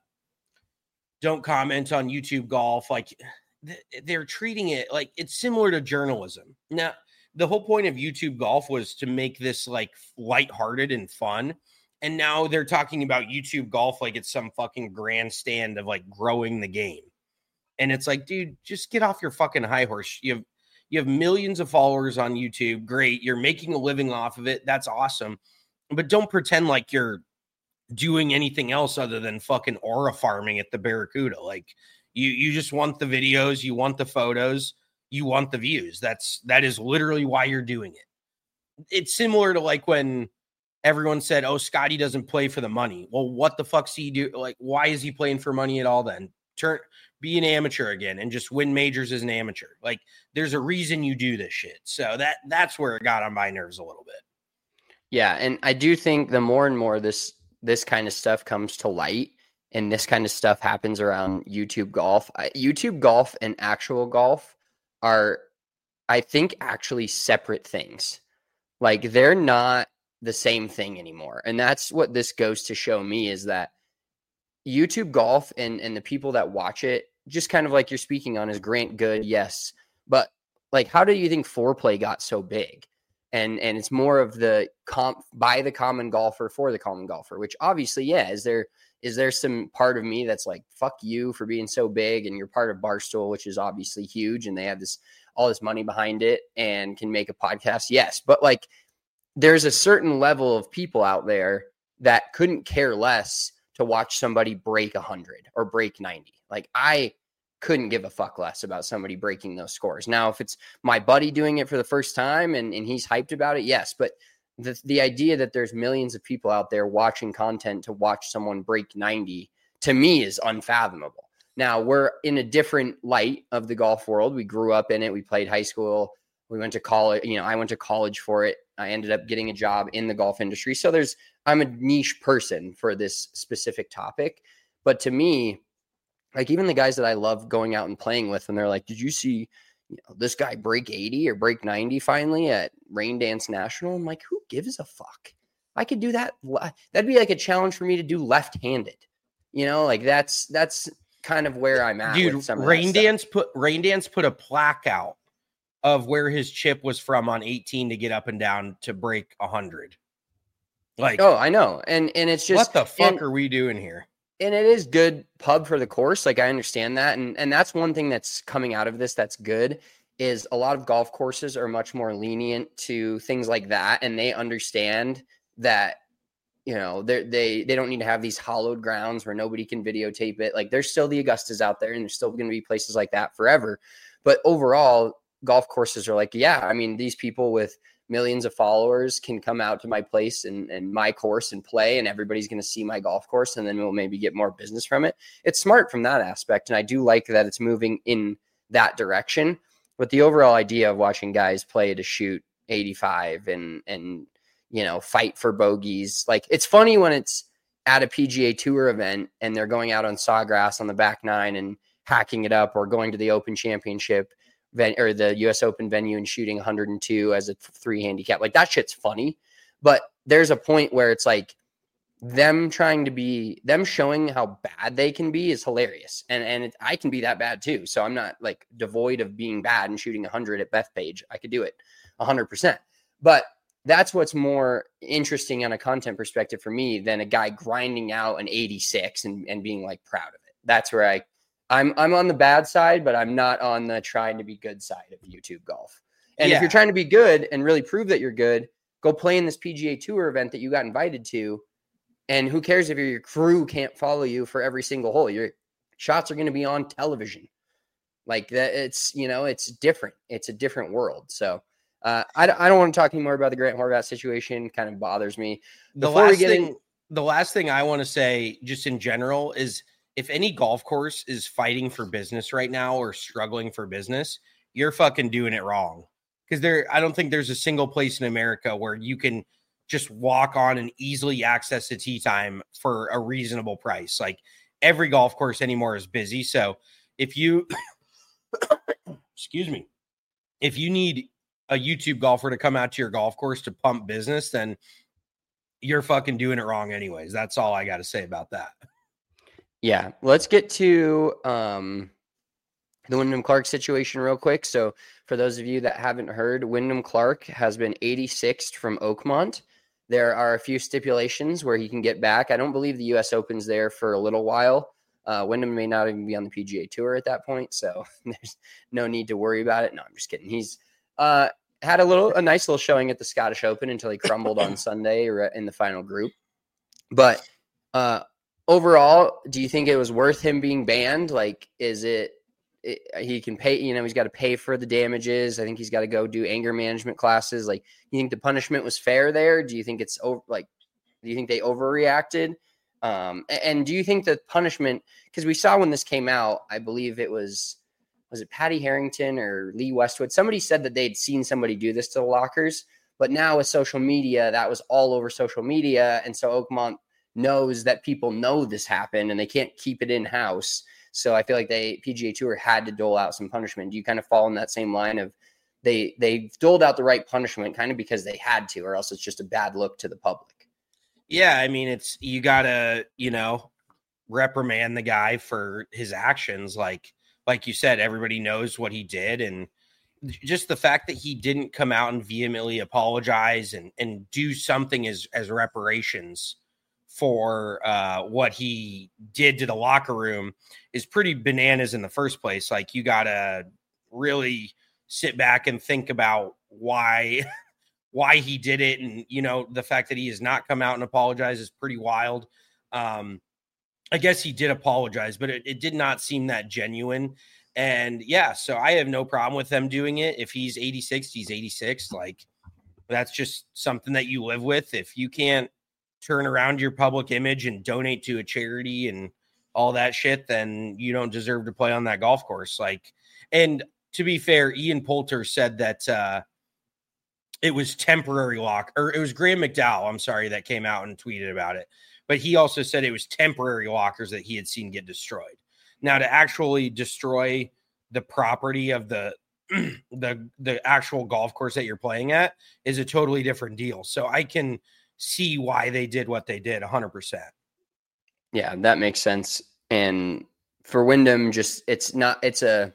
don't comment on YouTube golf. Like, th- they're treating it like it's similar to journalism. Now, the whole point of YouTube golf was to make this like lighthearted and fun. And now they're talking about YouTube golf like it's some fucking grandstand of like growing the game. And it's like, dude, just get off your fucking high horse. You have, you have millions of followers on YouTube. Great. You're making a living off of it. That's awesome. But don't pretend like you're doing anything else other than fucking aura farming at the Barracuda. Like, you, you just want the videos, you want the photos, you want the views. That's, that is literally why you're doing it. It's similar to like when everyone said, oh, Scotty doesn't play for the money. Well, what the fuck's he do? Like, why is he playing for money at all then? Turn, be an amateur again and just win majors as an amateur. Like, there's a reason you do this shit. So that, that's where it got on my nerves a little bit. Yeah. And I do think the more and more this, this kind of stuff comes to light and this kind of stuff happens around YouTube golf, I, YouTube golf and actual golf are, I think, actually separate things. Like, they're not the same thing anymore. And that's what this goes to show me, is that YouTube golf and, and the people that watch it, just kind of like you're speaking on, is Grant good? Yes. But like, how do you think foreplay got so big? And and it's more of the comp by the common golfer for the common golfer, which obviously, yeah, is there is there some part of me that's like, fuck you for being so big, and you're part of Barstool, which is obviously huge, and they have this all this money behind it and can make a podcast. Yes, but like, there's a certain level of people out there that couldn't care less to watch somebody break one hundred or break ninety. Like, I couldn't give a fuck less about somebody breaking those scores. Now, if it's my buddy doing it for the first time and, and he's hyped about it, yes. But the, the idea that there's millions of people out there watching content to watch someone break ninety, to me, is unfathomable. Now, we're in a different light of the golf world. We grew up in it. We played high school. We went to college. You know, I went to college for it. I ended up getting a job in the golf industry. So there's, I'm a niche person for this specific topic. But to me, like, even the guys that I love going out and playing with, and they're like, did you see, you know, this guy break eighty or break ninety finally at Rain Dance National? I'm like, who gives a fuck? I could do that. That'd be like a challenge for me to do left-handed. You know, like that's that's kind of where I'm at. Dude, with some Rain Dance put Rain Dance put a plaque out of where his chip was from on eighteen to get up and down to break one hundred. Like, oh, I know. And and it's just, what the fuck and, are we doing here? And it is good pub for the course. Like, I understand that. And and that's one thing that's coming out of this that's good, is a lot of golf courses are much more lenient to things like that. And they understand that, you know, they they they don't need to have these hollowed grounds where nobody can videotape it. Like, there's still the Augustas out there, and there's still going to be places like that forever. But overall, golf courses are like, yeah, I mean, these people with millions of followers can come out to my place and, and my course and play, and everybody's going to see my golf course, and then we'll maybe get more business from it. It's smart from that aspect. And I do like that it's moving in that direction. But the overall idea of watching guys play to shoot eighty-five and, and, you know, fight for bogeys. Like, it's funny when it's at a P G A Tour event and they're going out on sawgrass on the back nine and hacking it up, or going to the Open Championship ven- or the U S Open venue and shooting one hundred two as a three handicap. Like, that shit's funny. But there's a point where it's like them trying to be, them showing how bad they can be is hilarious. And and it, I can be that bad too. So I'm not like devoid of being bad and shooting one hundred at Bethpage. I could do it one hundred percent. But that's what's more interesting on a content perspective for me than a guy grinding out an eighty-six and, and being like proud of it. That's where I, I'm I'm on the bad side, but I'm not on the trying to be good side of YouTube golf. And yeah. if you're trying to be good and really prove that you're good, go play in this P G A Tour event that you got invited to. And who cares if your crew can't follow you for every single hole? Your shots are going to be on television. Like that, it's, you know, it's different. It's a different world. So uh, I, I don't want to talk anymore about the Grant Horvath situation. Kind of bothers me. The Before last we get thing, in, the last thing I want to say, just in general, is if any golf course is fighting for business right now or struggling for business, you're fucking doing it wrong. Because there, I don't think there's a single place in America where you can just walk on and easily access the tee time for a reasonable price. Like, every golf course anymore is busy. So if you, excuse me, if you need a YouTube golfer to come out to your golf course to pump business, then you're fucking doing it wrong anyways. That's all I got to say about that. Yeah. Let's get to um, the Wyndham Clark situation real quick. So for those of you that haven't heard, Wyndham Clark has been eighty-sixth from Oakmont. There are a few stipulations where he can get back. I don't believe the U S Open's there for a little while. Uh, Wyndham may not even be on the P G A Tour at that point, so there's no need to worry about it. No, I'm just kidding. He's uh, had a little, a nice little showing at the Scottish Open until he crumbled on Sunday in the final group. But uh, overall, do you think it was worth him being banned? Like, is it, it he can pay, you know, he's got to pay for the damages. I think he's got to go do anger management classes. Like, you think the punishment was fair there? Do you think it's over, like, do you think they overreacted? Um, and do you think the punishment, because we saw when this came out, I believe it was, was it Patty Harrington or Lee Westwood? Somebody said that they'd seen somebody do this to the lockers, but now with social media, that was all over social media. And so Oakmont knows that people know this happened and they can't keep it in house. So I feel like they P G A Tour had to dole out some punishment. Do you kind of fall in that same line of they, they doled out the right punishment kind of because they had to, or else it's just a bad look to the public? Yeah. I mean, it's, you gotta, you know, reprimand the guy for his actions. Like, like you said, everybody knows what he did. And just the fact that he didn't come out and vehemently apologize and, and do something as, as reparations for uh, what he did to the locker room is pretty bananas in the first place. Like, you got to really sit back and think about why, why he did it. And, you know, the fact that he has not come out and apologize is pretty wild. Um, I guess he did apologize, but it, it did not seem that genuine. And yeah, so I have no problem with them doing it. If he's eighty-six, he's eighty-six. Like, that's just something that you live with. If you can't turn around your public image and donate to a charity and all that shit, then you don't deserve to play on that golf course. Like, and to be fair, Ian Poulter said that uh, it was temporary lock, or it was Graham McDowell, I'm sorry, that came out and tweeted about it. But he also said it was temporary lockers that he had seen get destroyed. Now, to actually destroy the property of the the the actual golf course that you're playing at is a totally different deal. So I can see why they did what they did one hundred percent. Yeah, that makes sense. And for Wyndham, just it's not it's a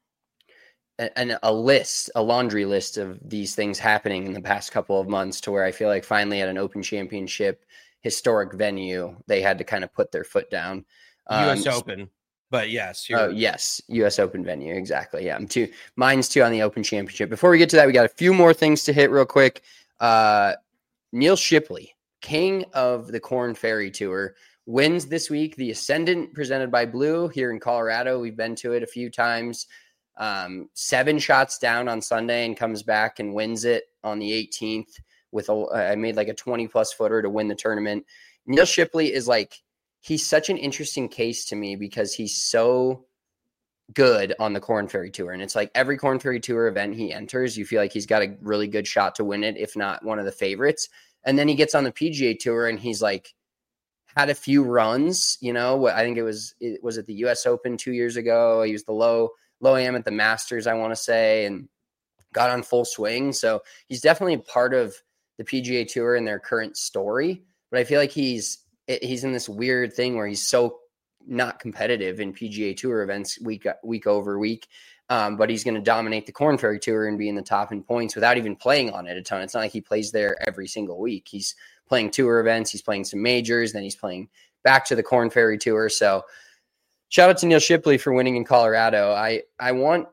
an, a list, a laundry list of these things happening in the past couple of months to where I feel like finally at an Open Championship historic venue, they had to kind of put their foot down. Um, U S Open, but yes. Oh, yes. U S Open venue. Exactly. Yeah. I'm too, mine's too on the Open Championship. Before we get to that, we got a few more things to hit real quick. Uh, Neil Shipley, king of the Korn Ferry Tour, wins this week. The Ascendant presented by Blue here in Colorado. We've been to it a few times. Um, seven shots down on Sunday and comes back and wins it on the eighteenth with a, I made like a twenty plus footer to win the tournament. Neil Shipley is like, he's such an interesting case to me because he's so good on the Korn Ferry Tour. And it's like every Korn Ferry Tour event he enters, you feel like he's got a really good shot to win it, if not one of the favorites. And then he gets on the P G A Tour and he's like had a few runs, you know, I think it was, it was at the U S Open two years ago. He was the low, low am at the Masters, I want to say, and got on full swing. So he's definitely part of the P G A Tour and their current story. But I feel like he's, he's in this weird thing where he's so not competitive in P G A Tour events week, week over week. Um, but he's going to dominate the Korn Ferry Tour and be in the top in points without even playing on it a ton. It's not like he plays there every single week. He's playing tour events. He's playing some majors. Then he's playing back to the Korn Ferry Tour. So shout out to Neil Shipley for winning in Colorado. I, I want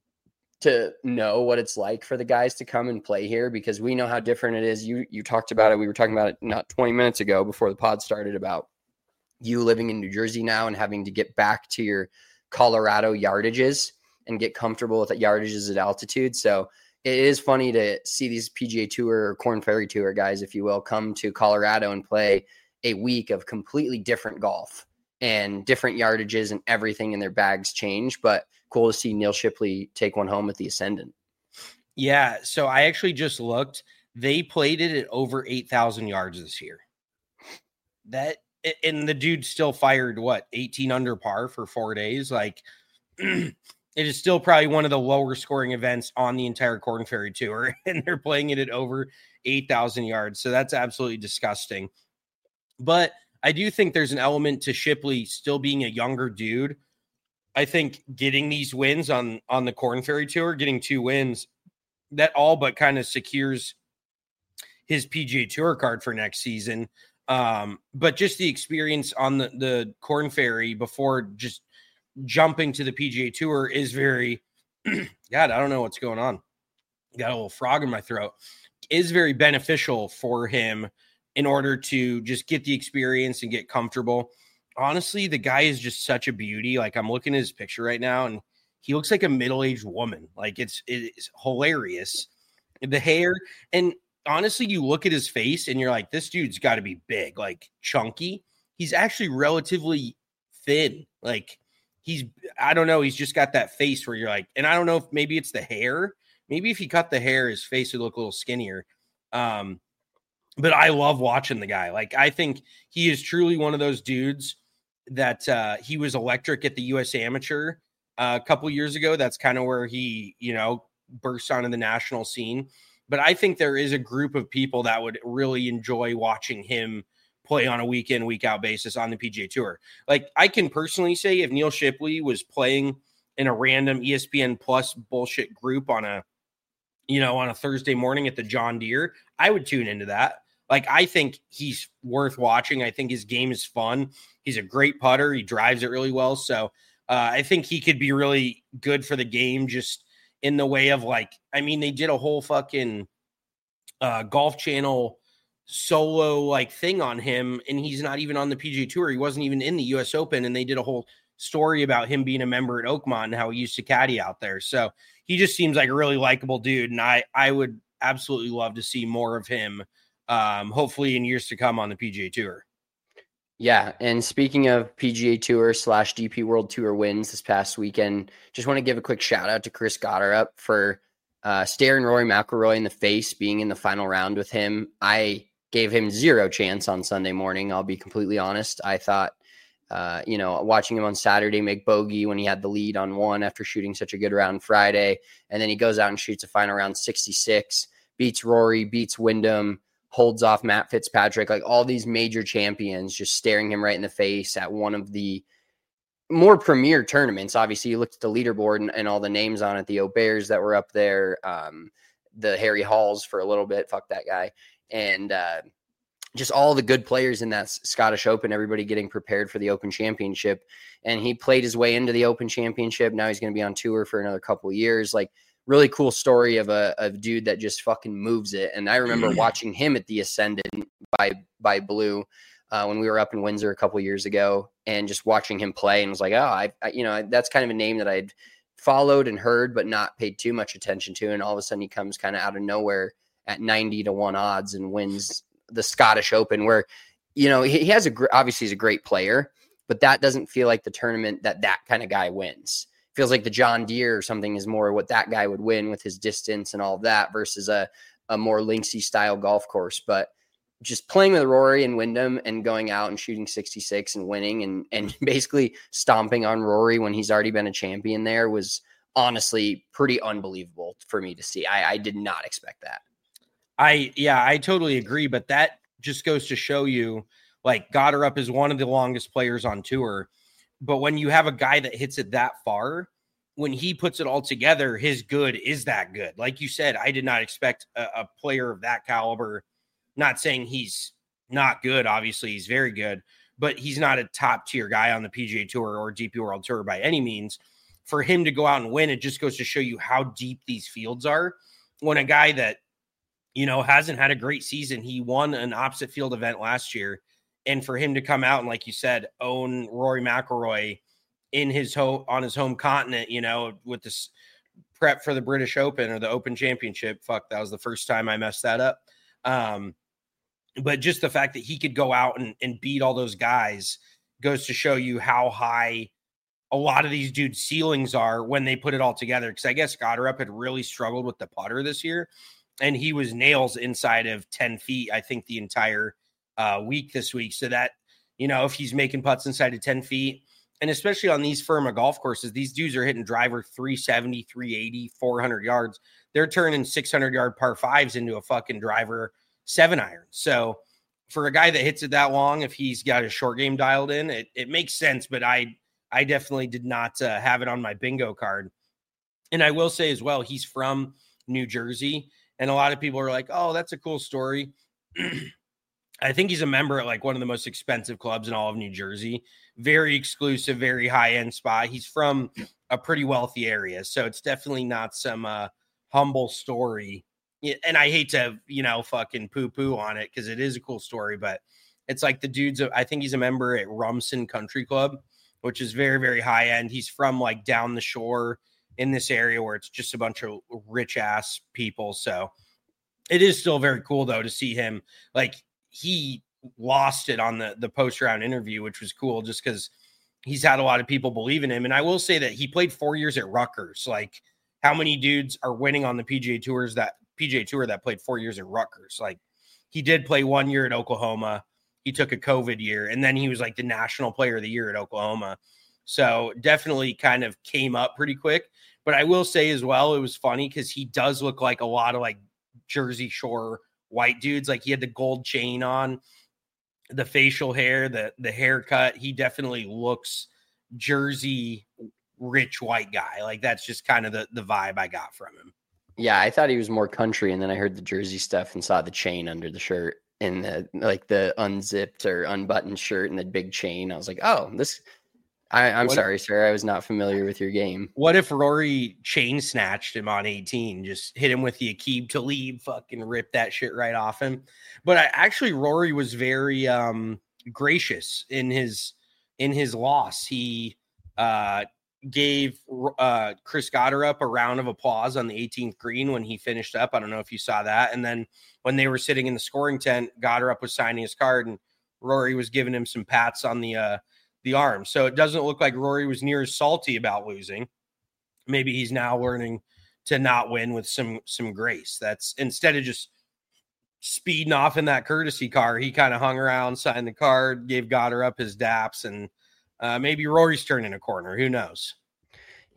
to know what it's like for the guys to come and play here because we know how different it is. You, you talked about it. We were talking about it not twenty minutes ago before the pod started about you living in New Jersey now and having to get back to your Colorado yardages and get comfortable with the yardages at altitude. So it is funny to see these P G A Tour or Korn Ferry Tour guys, if you will, come to Colorado and play a week of completely different golf and different yardages and everything in their bags change. But cool to see Neil Shipley take one home at the Ascendant. Yeah. So I actually just looked, they played it at over eight thousand yards this year. That, and the dude still fired what, eighteen under par for four days. Like it is still probably one of the lower scoring events on the entire Korn Ferry Tour. And they're playing it at over eight thousand yards. So that's absolutely disgusting. But I do think there's an element to Shipley still being a younger dude. I think getting these wins on, on the Korn Ferry Tour, getting two wins, that all but kind of secures his P G A Tour card for next season. Um, but just the experience on the, the Korn Ferry before just jumping to the P G A Tour is very, God, I don't know what's going on. Got a little frog in my throat. Is very beneficial for him in order to just get the experience and get comfortable. Honestly, the guy is just such a beauty. Like I'm looking at his picture right now and he looks like a middle-aged woman. Like it's, it's hilarious. The hair. And honestly, you look at his face and you're like, this dude's got to be big, like chunky. He's actually relatively thin. Like he's, I don't know. He's just got that face where you're like, and I don't know if maybe it's the hair. Maybe if he cut the hair, his face would look a little skinnier. Um, but I love watching the guy. Like, I think he is truly one of those dudes that uh, he was electric at the U S Amateur uh, a couple years ago. That's kind of where he, you know, burst onto the national scene. But I think there is a group of people that would really enjoy watching him play on a week in, week out basis on the P G A Tour. Like, I can personally say if Neil Shipley was playing in a random E S P N Plus bullshit group on a, you know, on a Thursday morning at the John Deere, I would tune into that. Like, I think he's worth watching. I think his game is fun. He's a great putter. He drives it really well. So uh, I think he could be really good for the game just in the way of like, I mean, they did a whole fucking uh, Golf Channel solo like thing on him, and he's not even on the P G A Tour. He wasn't even in the U S Open, and they did a whole story about him being a member at Oakmont and how he used to caddy out there. So he just seems like a really likable dude, and I, I would absolutely love to see more of him, um, hopefully in years to come on the P G A Tour. Yeah, and speaking of P G A Tour slash D P World Tour wins this past weekend, just want to give a quick shout out to Chris Gotterup for uh, staring Rory McIlroy in the face, being in the final round with him. I gave him zero chance on Sunday morning. I'll be completely honest. I thought, uh, you know, watching him on Saturday make bogey when he had the lead on one after shooting such a good round Friday, and then he goes out and shoots a final round sixty-six, beats Rory, beats Wyndham, holds off Matt Fitzpatrick, like all these major champions just staring him right in the face at one of the more premier tournaments. Obviously, you looked at the leaderboard and, and all the names on it, the O'Bears that were up there, um, the Harry Halls for a little bit, fuck that guy, and uh, just all the good players in that Scottish Open, everybody getting prepared for the Open Championship. And he played his way into the Open Championship. Now he's going to be on tour for another couple of years. Like, really cool story of a, a dude that just fucking moves it. And I remember watching him at the Ascendant by, by Blue uh, when we were up in Windsor a couple of years ago, and just watching him play, and was like, oh, I, I, you know, that's kind of a name that I'd followed and heard, but not paid too much attention to. And all of a sudden he comes kind of out of nowhere at ninety to one odds and wins the Scottish Open, where, you know, he, he has a, obviously he's a great player, but that doesn't feel like the tournament that that kind of guy wins. Feels like the John Deere or something is more what that guy would win with his distance and all of that versus a, a more linksy style golf course. But just playing with Rory and Wyndham and going out and shooting sixty-six and winning and, and basically stomping on Rory when he's already been a champion there was honestly pretty unbelievable for me to see. I, I did not expect that. I, yeah, I totally agree. But that just goes to show you, like, Goddard is one of the longest players on tour. But when you have a guy that hits it that far, when he puts it all together, his good is that good. Like you said, I did not expect a, a player of that caliber. Not saying he's not good. Obviously, he's very good, but he's not a top tier guy on the P G A Tour or D P World Tour by any means. For him to go out and win, it just goes to show you how deep these fields are. When a guy that, you know, hasn't had a great season, he won an opposite field event last year. And for him to come out and, like you said, own Rory McIlroy in his home on his home continent, you know, with this prep for the British Open or the Open Championship. Fuck, that was the first time I messed that up. Um, but just the fact that he could go out and, and beat all those guys goes to show you how high a lot of these dudes' ceilings are when they put it all together. Because I guess Goddard had really struggled with the putter this year, and he was nails inside of ten feet, I think, the entire Uh, week this week. So that, you know, if he's making putts inside of ten feet, and especially on these Firma golf courses, these dudes are hitting driver three seventy, three eighty, four hundred yards. They're turning six hundred yard par fives into a fucking driver seven iron. So for a guy that hits it that long, if he's got his short game dialed in, it, it makes sense. But I, I definitely did not uh, have it on my bingo card. And I will say as well, he's from New Jersey, and a lot of people are like, oh, that's a cool story. I think he's a member at like one of the most expensive clubs in all of New Jersey. Very exclusive, very high-end spot. He's from a pretty wealthy area, so it's definitely not some uh, humble story. And I hate to, you know, fucking poo-poo on it because it is a cool story, but it's like the dude's, I think he's a member at Rumson Country Club, which is very, very high-end. He's from like down the shore in this area where it's just a bunch of rich-ass people. So it is still very cool, though, to see him like, he lost it on the, the post-round interview, which was cool just because he's had a lot of people believe in him. And I will say that he played four years at Rutgers. Like, how many dudes are winning on the P G A Tours that P G A Tour that played four years at Rutgers? Like, he did play one year at Oklahoma. He took a COVID year, and then he was like the national player of the year at Oklahoma. So definitely kind of came up pretty quick. But I will say as well, it was funny because he does look like a lot of like Jersey Shore white dudes. Like, he had the gold chain on, the facial hair, the the haircut. He definitely looks Jersey rich white guy. Like, that's just kind of the, the vibe I got from him. Yeah, I thought he was more country, and then I heard the Jersey stuff and saw the chain under the shirt and the like the unzipped or unbuttoned shirt and the big chain. I was like, oh, this I, I'm what sorry, if, sir. I was not familiar with your game. What if Rory chain snatched him on eighteen? Just hit him with the Aqib Talib, fucking rip that shit right off him. But I, actually, Rory was very um, gracious in his in his loss. He uh, gave uh, Chris Goddard up a round of applause on the eighteenth green when he finished up. I don't know if you saw that. And then when they were sitting in the scoring tent, Goddard was signing his card, and Rory was giving him some pats on the uh, the arm. So it doesn't look like Rory was near as salty about losing. Maybe he's now learning to not win with some some grace. That's instead of just speeding off in that courtesy car, he kind of hung around, signed the card, gave Goddard up his daps, and uh, maybe Rory's turning a corner. Who knows?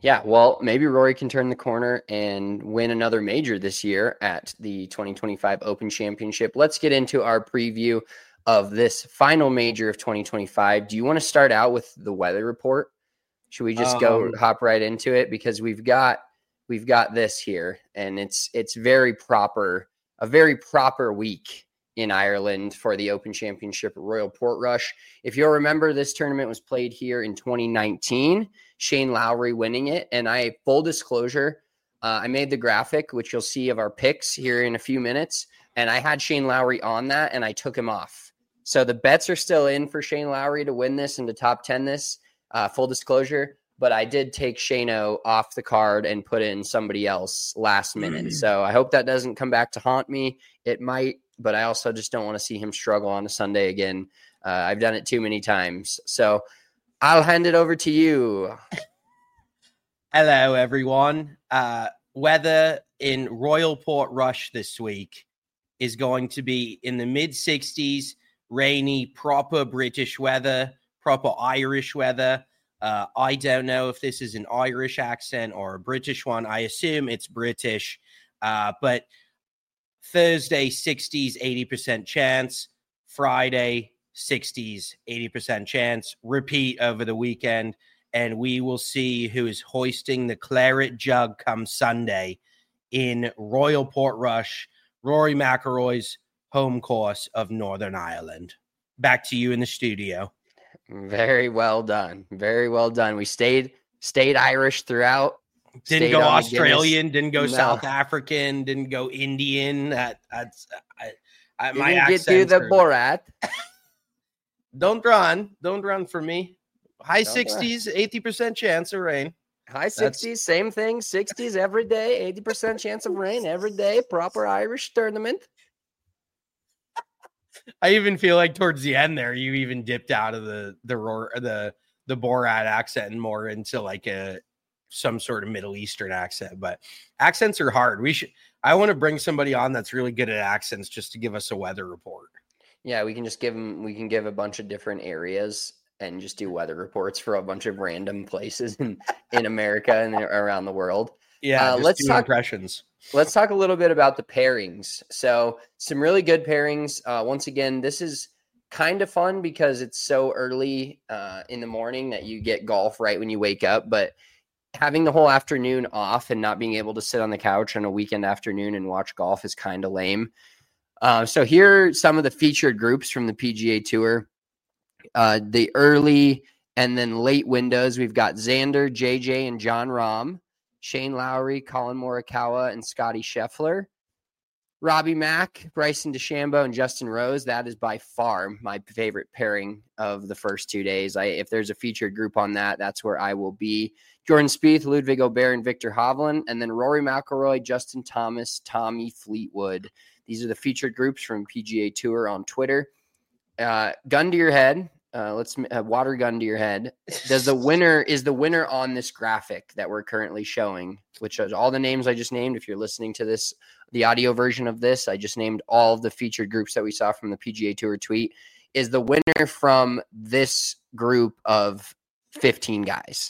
Yeah, well, maybe Rory can turn the corner and win another major this year at the twenty twenty-five Open Championship. Let's get into our preview of this final major of twenty twenty-five. Do you want to start out with the weather report? Should we just um, go hop right into it? Because we've got we've got this here, and it's it's very proper, a very proper week in Ireland for the Open Championship at Royal Portrush. If you'll remember, this tournament was played here in twenty nineteen, Shane Lowry winning it. And I, full disclosure, uh, I made the graphic, which you'll see of our picks here in a few minutes. And I had Shane Lowry on that, and I took him off. So the bets are still in for Shane Lowry to win this and to top ten this, uh, full disclosure. But I did take Shane-O off the card and put in somebody else last minute. So I hope that doesn't come back to haunt me. It might, but I also just don't want to see him struggle on a Sunday again. Uh, I've done it too many times. So I'll hand it over to you. Hello, everyone. Uh, weather in Royal Portrush this week is going to be in the mid sixties, rainy, proper British weather, proper Irish weather. Uh, I don't know if this is an Irish accent or a British one. I assume it's British, uh, but Thursday, sixties, eighty percent chance. Friday, sixties, eighty percent chance. Repeat over the weekend, and we will see who is hoisting the claret jug come Sunday in Royal Portrush, Rory McIlroy's home course of Northern Ireland. Back to you in the studio. Very well done. Very well done. We stayed stayed Irish throughout. Didn't go Australian, didn't go no. South African, didn't go Indian. That, that's I, I, my accent. Didn't get to the Borat. Don't run. Don't run for me. High Don't sixties, run. eighty percent chance of rain. High sixties, that's... same thing. sixties every day, eighty percent chance of rain every day. Proper Irish tournament. I even feel like towards the end there, you even dipped out of the the the the Borat accent and more into like a some sort of Middle Eastern accent. But accents are hard. We should. I want to bring somebody on that's really good at accents just to give us a weather report. Yeah, we can just give them. We can give a bunch of different areas and just do weather reports for a bunch of random places in in America and around the world. Yeah, uh, let's talk impressions. Let's talk a little bit about the pairings. So some really good pairings. Uh, once again, this is kind of fun because it's so early uh, in the morning that you get golf right when you wake up. But having the whole afternoon off and not being able to sit on the couch on a weekend afternoon and watch golf is kind of lame. Uh, so here are some of the featured groups from the P G A Tour. Uh, the early and then late windows, we've got Xander, J J, and Jon Rahm. Shane Lowry, Colin Morikawa, and Scotty Scheffler. Robbie Mack, Bryson DeChambeau, and Justin Rose. That is by far my favorite pairing of the first two days. I, if there's a featured group on that, that's where I will be. Jordan Spieth, Ludwig Aubert, and Victor Hovland. And then Rory McIlroy, Justin Thomas, Tommy Fleetwood. These are the featured groups from P G A Tour on Twitter. Uh, gun to your head. Uh, let's uh, water gun to your head. Does the winner is the winner on this graphic that we're currently showing, which is all the names I just named. If you're listening to this, the audio version of this, I just named all of the featured groups that we saw from the P G A Tour tweet. Is the winner from this group of fifteen guys?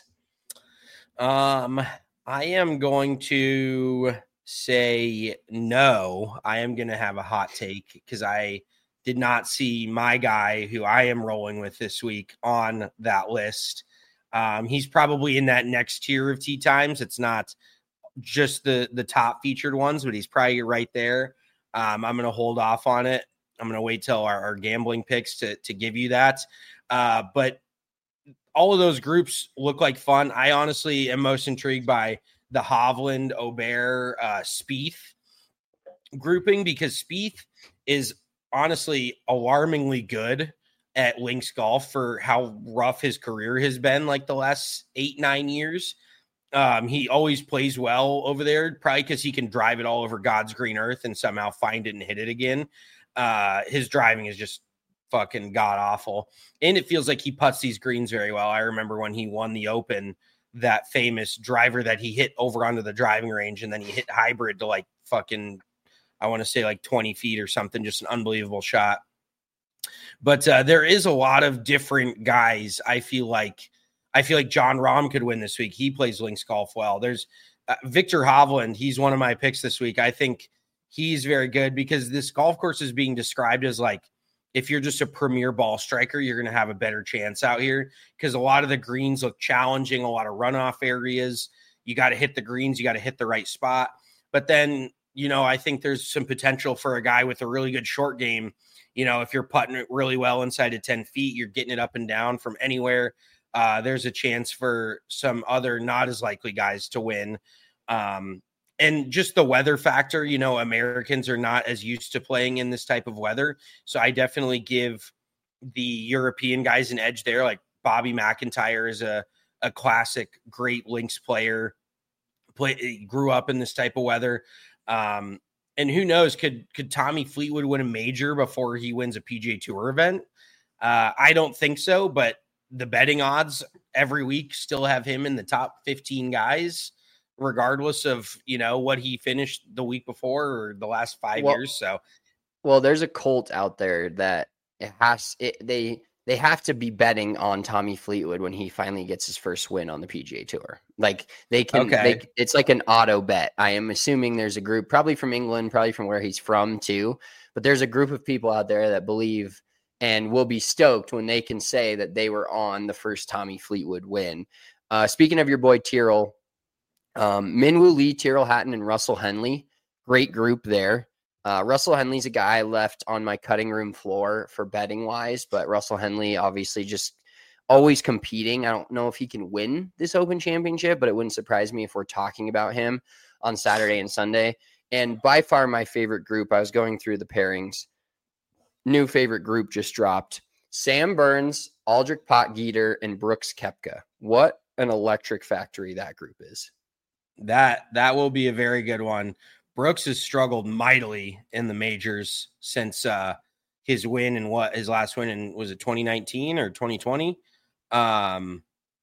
Um, I am going to say no. I am going to have a hot take because I did not see my guy who I am rolling with this week on that list. Um, he's probably in that next tier of tee times. It's not just the, the top featured ones, but he's probably right there. Um, I'm going to hold off on it. I'm going to wait till our, our gambling picks to, to give you that. Uh, but all of those groups look like fun. I honestly am most intrigued by the Hovland, Aubert, uh, Spieth grouping because Spieth is honestly alarmingly good at links golf for how rough his career has been like the last eight, nine years. Um, he always plays well over there, probably because he can drive it all over God's green earth and somehow find it and hit it again. Uh, his driving is just fucking god awful. And it feels like he putts these greens very well. I remember when he won the Open, that famous driver that he hit over onto the driving range and then he hit hybrid to like fucking, I want to say like twenty feet or something, just an unbelievable shot. But uh, there is a lot of different guys. I feel like I feel like John Rahm could win this week. He plays links golf well. There's uh, Victor Hovland. He's one of my picks this week. I think he's very good because this golf course is being described as like, if you're just a premier ball striker, you're going to have a better chance out here because a lot of the greens look challenging, a lot of runoff areas. You got to hit the greens. You got to hit the right spot. But then, you know, I think there's some potential for a guy with a really good short game. You know, if you're putting it really well inside of ten feet, you're getting it up and down from anywhere. Uh, there's a chance for some other not as likely guys to win. Um, and just the weather factor, you know, Americans are not as used to playing in this type of weather. So I definitely give the European guys an edge there. Like Bobby McIntyre is a, a classic, great links player, play, grew up in this type of weather. Um, and who knows, could, could Tommy Fleetwood win a major before he wins a P G A Tour event? Uh, I don't think so, but the betting odds every week still have him in the top fifteen guys, regardless of, you know, what he finished the week before or the last five well, years. So, well, there's a cult out there that it has, it, they, they have to be betting on Tommy Fleetwood when he finally gets his first win on the P G A Tour. Like they can, okay. they, it's like an auto bet. I am assuming there's a group probably from England, probably from where he's from too, but there's a group of people out there that believe and will be stoked when they can say that they were on the first Tommy Fleetwood win. Uh, speaking of your boy Tyrrell, um, Minwoo Lee, Tyrrell Hatton, and Russell Henley, great group there. Uh, Russell Henley's a guy I left on my cutting room floor for betting wise, but Russell Henley obviously just always competing. I don't know if he can win this Open Championship, but it wouldn't surprise me if we're talking about him on Saturday and Sunday. And by far my favorite group, I was going through the pairings. New favorite group just dropped. Sam Burns, Aldrich Potgieter, and Brooks Koepka. What an electric factory that group is. That that will be a very good one. Brooks has struggled mightily in the majors since uh, his win and what his last win in, was it twenty nineteen or twenty twenty? Um,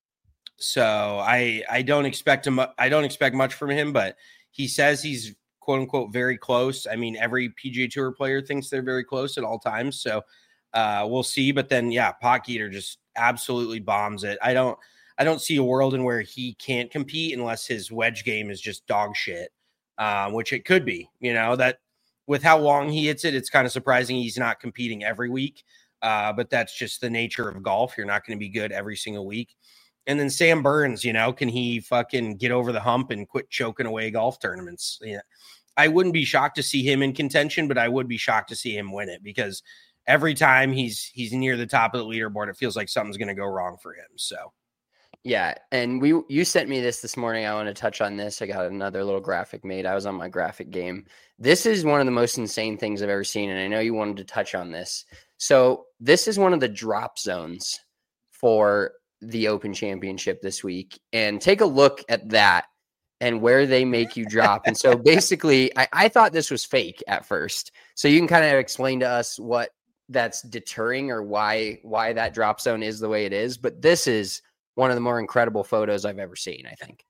so I I don't expect him. I don't expect much from him, but he says he's quote unquote very close. I mean, every P G A Tour player thinks they're very close at all times. So uh, we'll see. But then, yeah, Potgieter just absolutely bombs it. I don't, I don't see a world in where he can't compete unless his wedge game is just dog shit, uh, which it could be. You know, that with how long he hits it, it's kind of surprising he's not competing every week. Uh, but that's just the nature of golf. You're not going to be good every single week. And then Sam Burns, you know, can he fucking get over the hump and quit choking away golf tournaments? Yeah. I wouldn't be shocked to see him in contention, but I would be shocked to see him win it because every time he's he's near the top of the leaderboard, it feels like something's going to go wrong for him. So, yeah. And we you sent me this this morning. I want to touch on this. I got another little graphic made. I was on my graphic game. This is one of the most insane things I've ever seen, and I know you wanted to touch on this. So this is one of the drop zones for the Open Championship this week, and take a look at that and where they make you drop. And so basically I, I thought this was fake at first. So you can kind of explain to us what that's deterring or why, why that drop zone is the way it is. But this is one of the more incredible photos I've ever seen, I think.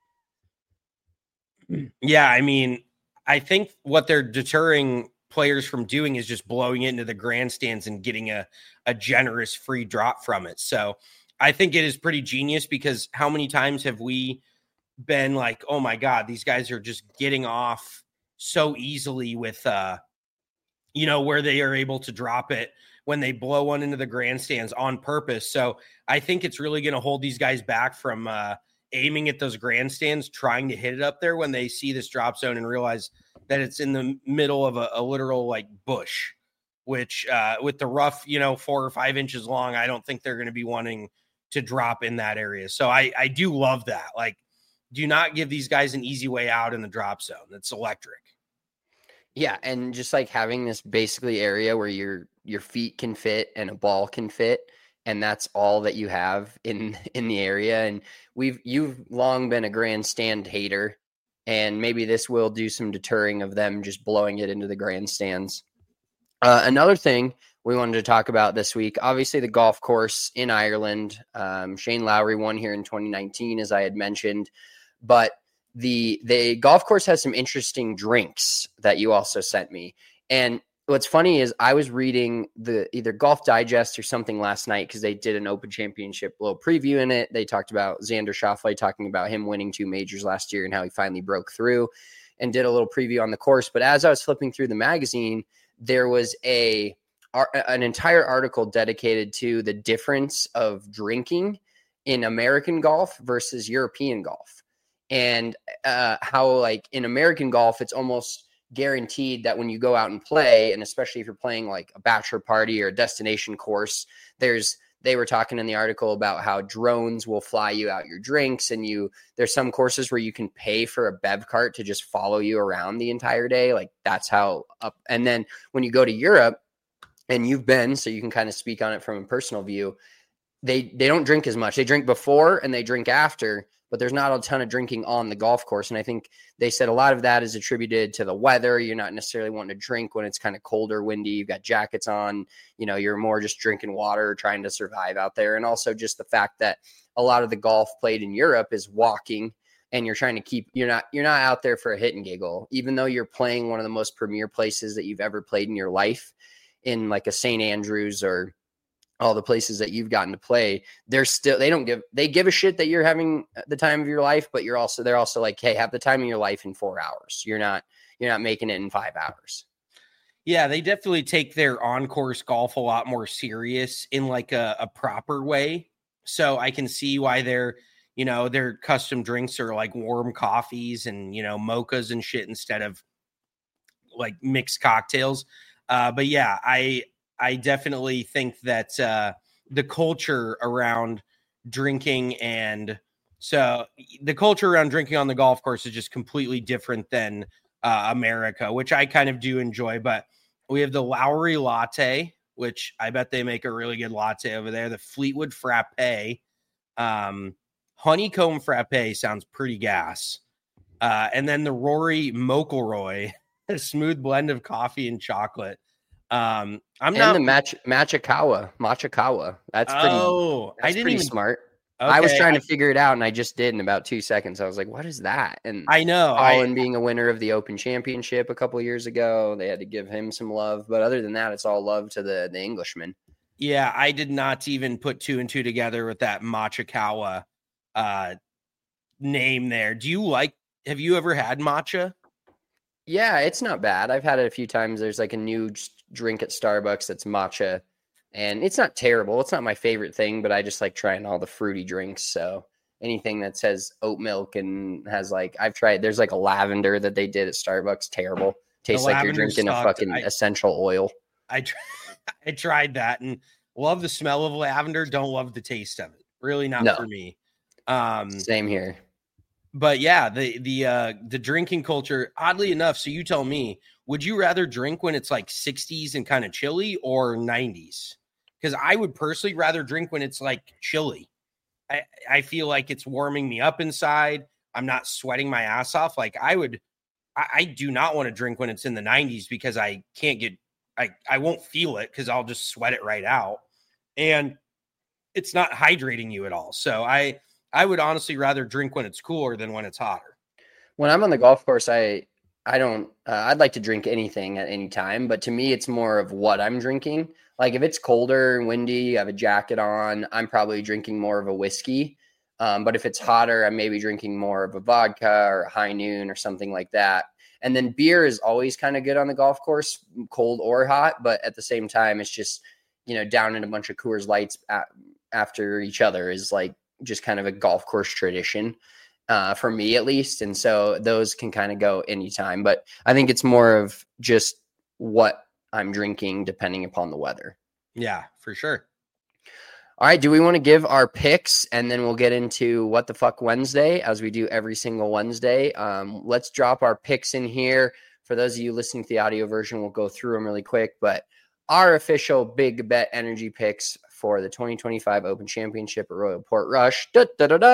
Yeah. I mean, I think what they're deterring players from doing is just blowing it into the grandstands and getting a, a generous free drop from it. So I think it is pretty genius because how many times have we been like, oh my God, these guys are just getting off so easily with, uh, you know, where they are able to drop it when they blow one into the grandstands on purpose. So I think it's really going to hold these guys back from uh, aiming at those grandstands, trying to hit it up there when they see this drop zone and realize that it's in the middle of a, a literal like bush, which uh, with the rough, you know, four or five inches long, I don't think they're going to be wanting to drop in that area. So I, I do love that. Like, do not give these guys an easy way out in the drop zone. That's electric. Yeah. And just like having this basically area where your, your feet can fit and a ball can fit. And that's all that you have in, in the area. And we've, you've long been a grandstand hater, and maybe this will do some deterring of them just blowing it into the grandstands. Uh, another thing we wanted to talk about this week, obviously the golf course in Ireland. Um, Shane Lowry won here in twenty nineteen, as I had mentioned, but the, the golf course has some interesting drinks that you also sent me. And what's funny is I was reading the either Golf Digest or something last night because they did an Open Championship little preview in it. They talked about Xander Schauffele talking about him winning two majors last year and how he finally broke through, and did a little preview on the course. But as I was flipping through the magazine, there was a an entire article dedicated to the difference of drinking in American golf versus European golf, and uh, how like in American golf, it's almost guaranteed that when you go out and play, and especially if you're playing like a bachelor party or a destination course, there's they were talking in the article about how drones will fly you out your drinks, and you there's some courses where you can pay for a bev cart to just follow you around the entire day. Like that's how up. And then when you go to Europe, and you've been, so you can kind of speak on it from a personal view, they they don't drink as much. They drink before and they drink after, but there's not a ton of drinking on the golf course. And I think they said a lot of that is attributed to the weather. You're not necessarily wanting to drink when it's kind of cold or windy. You've got jackets on, you know, you're more just drinking water, trying to survive out there. And also just the fact that a lot of the golf played in Europe is walking, and you're trying to keep, you're not, you're not out there for a hit and giggle, even though you're playing one of the most premier places that you've ever played in your life, in like a Saint Andrews or all the places that you've gotten to play. They're still, they don't give, they give a shit that you're having the time of your life, but you're also, they're also like, hey, have the time of your life in four hours. You're not, you're not making it in five hours. Yeah, they definitely take their on-course golf a lot more serious in like a, a proper way. So I can see why their, you know, their custom drinks are like warm coffees and, you know, mochas and shit instead of like mixed cocktails. Uh, but yeah, I, I definitely think that uh, the culture around drinking, and so the culture around drinking on the golf course is just completely different than uh, America, which I kind of do enjoy. But we have the Lowry Latte, which I bet they make a really good latte over there. The Fleetwood Frappe, um, Honeycomb Frappe sounds pretty gas. Uh, and then the Rory McIlroy, a smooth blend of coffee and chocolate. Um, I'm and not the match Machikawa, Machikawa. That's pretty, oh, that's I didn't pretty even, smart. okay, I was trying I, to figure it out, and I just did in about two seconds. I was like, what is that? And I know Colin I, being a winner of the Open Championship a couple of years ago, they had to give him some love. But other than that, it's all love to the, the Englishman. Yeah, I did not even put two and two together with that Machikawa uh, name there. Do you like, have you ever had matcha? Yeah, it's not bad. I've had it a few times. There's like a new drink at Starbucks that's matcha, and it's not terrible. It's not my favorite thing, but I just like trying all the fruity drinks. So anything that says oat milk and has like, I've tried, there's like a lavender that they did at Starbucks. Terrible. Tastes like you're drinking sucked. a fucking I, essential oil. I, tr- I tried that and love the smell of lavender. Don't love the taste of it. Really not no. for me. Um, Same here. But yeah, the the uh, the drinking culture, oddly enough, so you tell me, would you rather drink when it's like sixties and kind of chilly or nineties? Because I would personally rather drink when it's like chilly. I, I feel like it's warming me up inside. I'm not sweating my ass off. Like I would, I, I do not want to drink when it's in the nineties because I can't get, I, I won't feel it because I'll just sweat it right out. And it's not hydrating you at all. So I, I would honestly rather drink when it's cooler than when it's hotter. When I'm on the golf course, I I don't. Uh, I'd like to drink anything at any time, but to me, it's more of what I'm drinking. Like if it's colder and windy, I have a jacket on, I'm probably drinking more of a whiskey. Um, but if it's hotter, I'm maybe drinking more of a vodka or a High Noon or something like that. And then beer is always kind of good on the golf course, cold or hot. But at the same time, it's just, you know, down in a bunch of Coors Lights at, after each other is like just kind of a golf course tradition uh, for me at least. And so those can kind of go anytime, but I think it's more of just what I'm drinking depending upon the weather. Yeah, for sure. All right. Do we want to give our picks and then we'll get into what the fuck Wednesday as we do every single Wednesday? Um, let's drop our picks in here. For those of you listening to the audio version, we'll go through them really quick, but our official Big Bet Energy picks for the twenty twenty-five Open Championship at Royal Portrush. Da, da, da,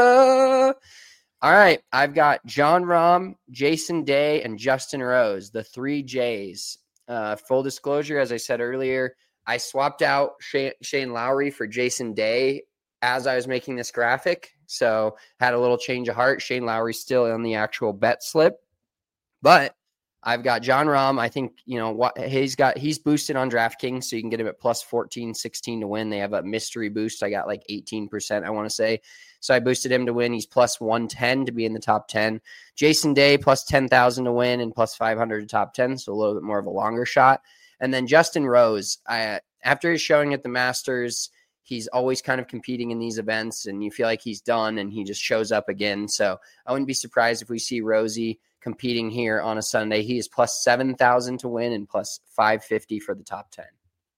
da. All right. I've got Jon Rahm, Jason Day, and Justin Rose, the three J's. Uh, full disclosure, as I said earlier, I swapped out Shane, Shane Lowry for Jason Day as I was making this graphic. So had a little change of heart. Shane Lowry's still on the actual bet slip. But I've got John Rahm. I think, you know, what he's got, he's boosted on DraftKings, so you can get him at plus fourteen, sixteen to win. They have a mystery boost. I got like eighteen percent, I want to say. So I boosted him to win. He's plus one ten to be in the top ten. Jason Day, plus ten thousand to win and plus five hundred to top ten. So a little bit more of a longer shot. And then Justin Rose, I, after his showing at the Masters, he's always kind of competing in these events, and you feel like he's done, and he just shows up again. So I wouldn't be surprised if we see Rosie competing here on a Sunday. He is plus seven thousand to win and plus five fifty for the top ten.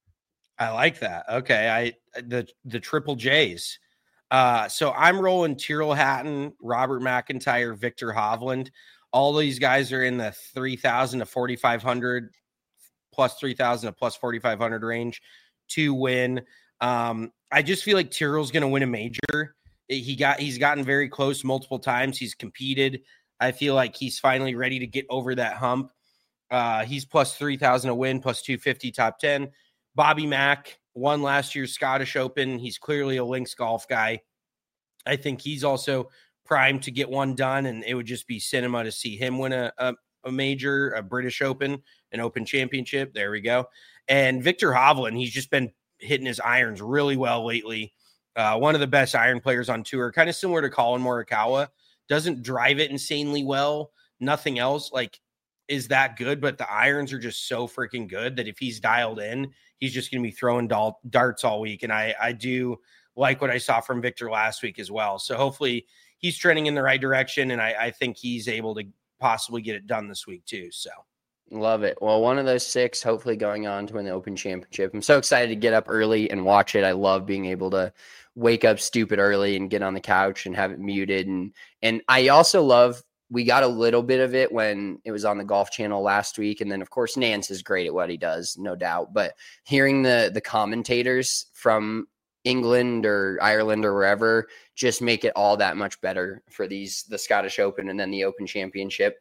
I like that. Okay. I, the, the triple J's. Uh, so I'm rolling Tyrrell Hatton, Robert McIntyre, Victor Hovland. All these guys are in the three thousand to forty-five hundred, plus three thousand to plus forty-five hundred range to win. Um, I just feel like Tyrrell's going to win a major. He got, he's gotten very close multiple times. He's competed. I feel like he's finally ready to get over that hump. Uh, he's plus three thousand a win, plus two fifty top ten. Bobby Mack won last year's Scottish Open. He's clearly a links golf guy. I think he's also primed to get one done, and it would just be cinema to see him win a, a, a major, a British Open, an Open Championship. There we go. And Victor Hovland, he's just been hitting his irons really well lately. Uh, one of the best iron players on tour, kind of similar to Colin Morikawa. Doesn't drive it insanely well. Nothing else like is that good, but the irons are just so freaking good that if he's dialed in, he's just going to be throwing dal- darts all week. And I, I do like what I saw from Victor last week as well. So hopefully he's trending in the right direction, and I, I think he's able to possibly get it done this week too. So love it. Well, one of those six, hopefully going on to win the Open Championship. I'm so excited to get up early and watch it. I love being able to wake up stupid early and get on the couch and have it muted. And, and I also love, we got a little bit of it when it was on the Golf Channel last week. And then of course, Nance is great at what he does, no doubt, but hearing the, the commentators from England or Ireland or wherever just make it all that much better for these, the Scottish Open and then the Open Championship.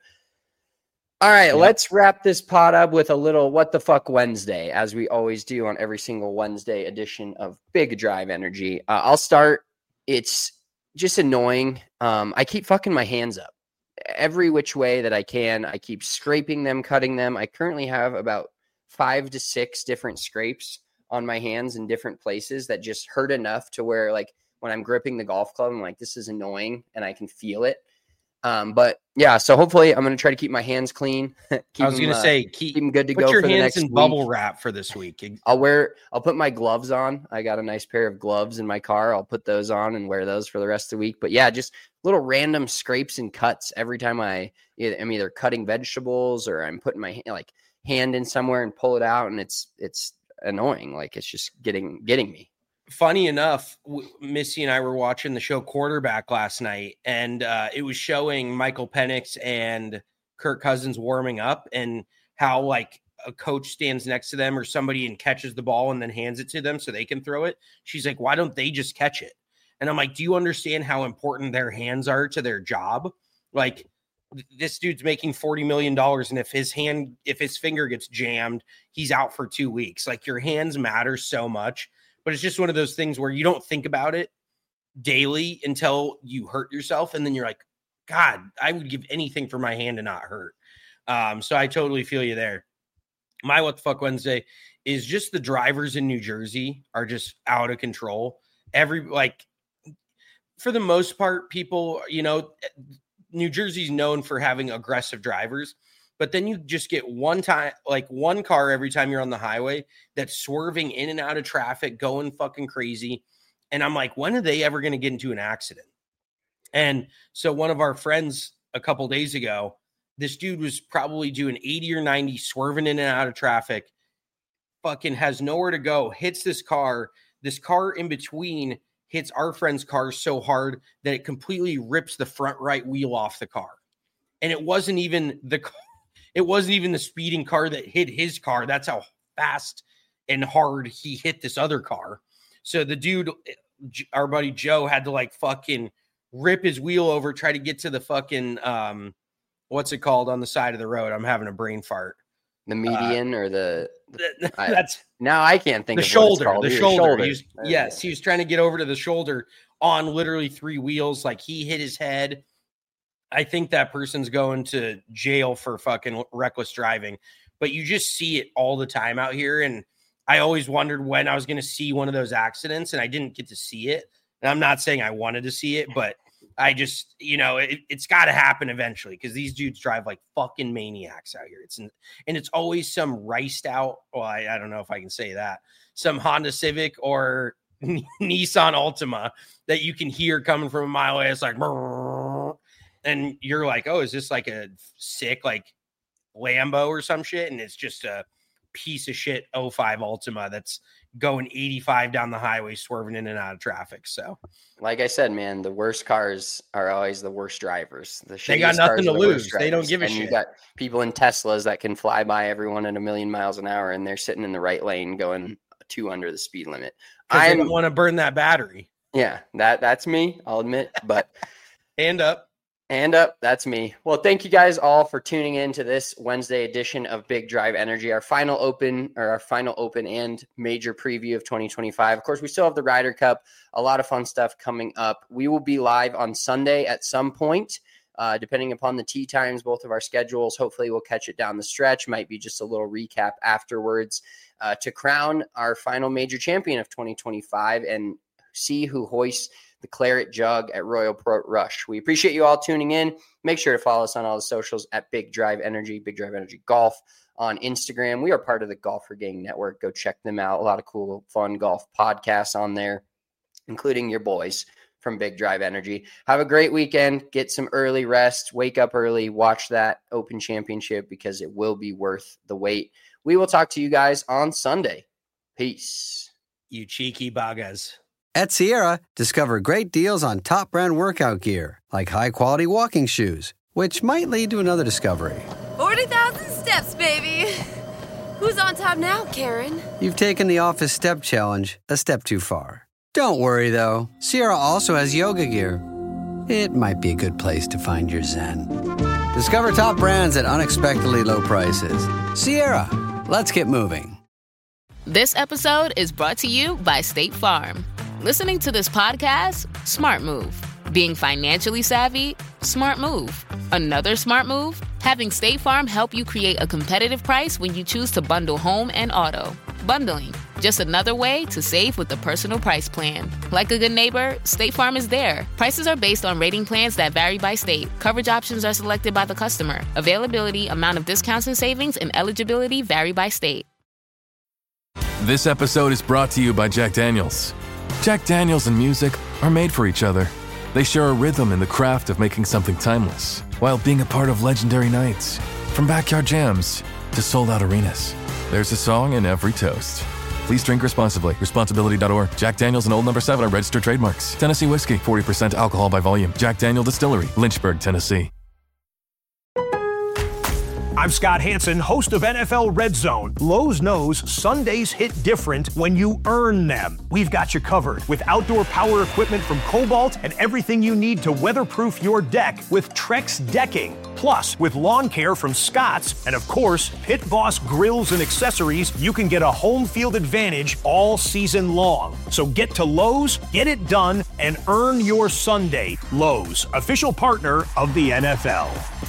All right, yep. Let's wrap this pod up with a little What the Fuck Wednesday, as we always do on every single Wednesday edition of Big Drive Energy. Uh, I'll start. It's just annoying. Um, I keep fucking my hands up every which way that I can. I keep scraping them, cutting them. I currently have about five to six different scrapes on my hands in different places that just hurt enough to where, like, when I'm gripping the golf club, I'm like, this is annoying, and I can feel it. Um, but yeah, so hopefully I'm going to try to keep my hands clean. keep I was going to uh, say, keep, keep them good to put go your for the hands next in week. Bubble wrap for this week. I'll wear, I'll put my gloves on. I got a nice pair of gloves in my car. I'll put those on and wear those for the rest of the week. But yeah, just little random scrapes and cuts every time I, I'm either cutting vegetables or I'm putting my like hand in somewhere and pull it out. And it's, it's annoying. Like it's just getting, getting me. Funny enough, Missy and I were watching the show Quarterback last night, and uh, it was showing Michael Penix and Kirk Cousins warming up and how like a coach stands next to them or somebody and catches the ball and then hands it to them so they can throw it. She's like, why don't they just catch it? And I'm like, do you understand how important their hands are to their job? Like this dude's making forty million dollars. And if his hand, if his finger gets jammed, he's out for two weeks. Like your hands matter so much. But it's just one of those things where you don't think about it daily until you hurt yourself. And then you're like, God, I would give anything for my hand to not hurt. Um, so I totally feel you there. My What the Fuck Wednesday is just the drivers in New Jersey are just out of control. Every, like, for the most part, people, you know, New Jersey's known for having aggressive drivers. But then you just get one time, like one car every time you're on the highway that's swerving in and out of traffic, going fucking crazy. And I'm like, when are they ever going to get into an accident? And so one of our friends a couple days ago, this dude was probably doing eighty or ninety, swerving in and out of traffic, fucking has nowhere to go, hits this car. This car in between hits our friend's car so hard that it completely rips the front right wheel off the car. And it wasn't even the car. It wasn't even the speeding car that hit his car. That's how fast and hard he hit this other car. So the dude, our buddy Joe, had to like fucking rip his wheel over, try to get to the fucking, um, what's it called on the side of the road? I'm having a brain fart. The median uh, or the, the I, that's now I can't think the of shoulder, what the Either. shoulder. shoulder. He was, yes, he was trying to get over to the shoulder on literally three wheels. Like he hit his head. I think that person's going to jail for fucking reckless driving. But you just see it all the time out here. And I always wondered when I was going to see one of those accidents, and I didn't get to see it. And I'm not saying I wanted to see it, but I just, you know, it, it's got to happen eventually because these dudes drive like fucking maniacs out here. It's and it's always some riced out. Well, I, I don't know if I can say that. Some Honda Civic or Nissan Altima that you can hear coming from a mile away. It's like, and you're like, oh, is this like a sick like Lambo or some shit? And it's just a piece of shit oh five Altima that's going eighty-five down the highway, swerving in and out of traffic. So, like I said, man, the worst cars are always the worst drivers. The they got nothing to lose. They don't give a and shit. You got people in Teslas that can fly by everyone at a million miles an hour, and they're sitting in the right lane going two under the speed limit. I don't want to burn that battery. Yeah, that that's me. I'll admit, but hand up. And up, that's me. Well, thank you guys all for tuning in to this Wednesday edition of Big Drive Energy, our final open or our final open and major preview of twenty twenty-five. Of course, we still have the Ryder Cup, a lot of fun stuff coming up. We will be live on Sunday at some point, uh, depending upon the tee times, both of our schedules. Hopefully, we'll catch it down the stretch. Might be just a little recap afterwards uh, to crown our final major champion of twenty twenty-five and see who hoists the Claret Jug at Royal Port Rush. We appreciate you all tuning in. Make sure to follow us on all the socials at Big Drive Energy, Big Drive Energy Golf on Instagram. We are part of the Golfer Gang Network. Go check them out. A lot of cool, fun golf podcasts on there, including your boys from Big Drive Energy. Have a great weekend. Get some early rest. Wake up early. Watch that Open Championship because it will be worth the wait. We will talk to you guys on Sunday. Peace. You cheeky bagas. At Sierra, discover great deals on top brand workout gear, like high-quality walking shoes, which might lead to another discovery. forty thousand steps, baby. Who's on top now, Karen? You've taken the office step challenge a step too far. Don't worry, though. Sierra also has yoga gear. It might be a good place to find your zen. Discover top brands at unexpectedly low prices. Sierra, let's get moving. This episode is brought to you by State Farm. Listening to this podcast? Smart move. Being financially savvy? Smart move. Another smart move? Having State Farm help you create a competitive price when you choose to bundle home and auto. Bundling. Just another way to save with the Personal Price Plan. Like a good neighbor, State Farm is there. Prices are based on rating plans that vary by state. Coverage options are selected by the customer. Availability, amount of discounts and savings, and eligibility vary by state. This episode is brought to you by Jack Daniels. Jack Daniels and music are made for each other. They share a rhythm in the craft of making something timeless, while being a part of legendary nights. From backyard jams to sold-out arenas, there's a song in every toast. Please drink responsibly. Responsibility dot org. Jack Daniels and Old Number seven are registered trademarks. Tennessee whiskey, forty percent alcohol by volume. Jack Daniel Distillery, Lynchburg, Tennessee. I'm Scott Hansen, host of N F L Red Zone. Lowe's knows Sundays hit different when you earn them. We've got you covered with outdoor power equipment from Cobalt and everything you need to weatherproof your deck with Trex Decking. Plus, with lawn care from Scott's and, of course, Pit Boss grills and accessories, you can get a home field advantage all season long. So get to Lowe's, get it done, and earn your Sunday. Lowe's, official partner of the N F L.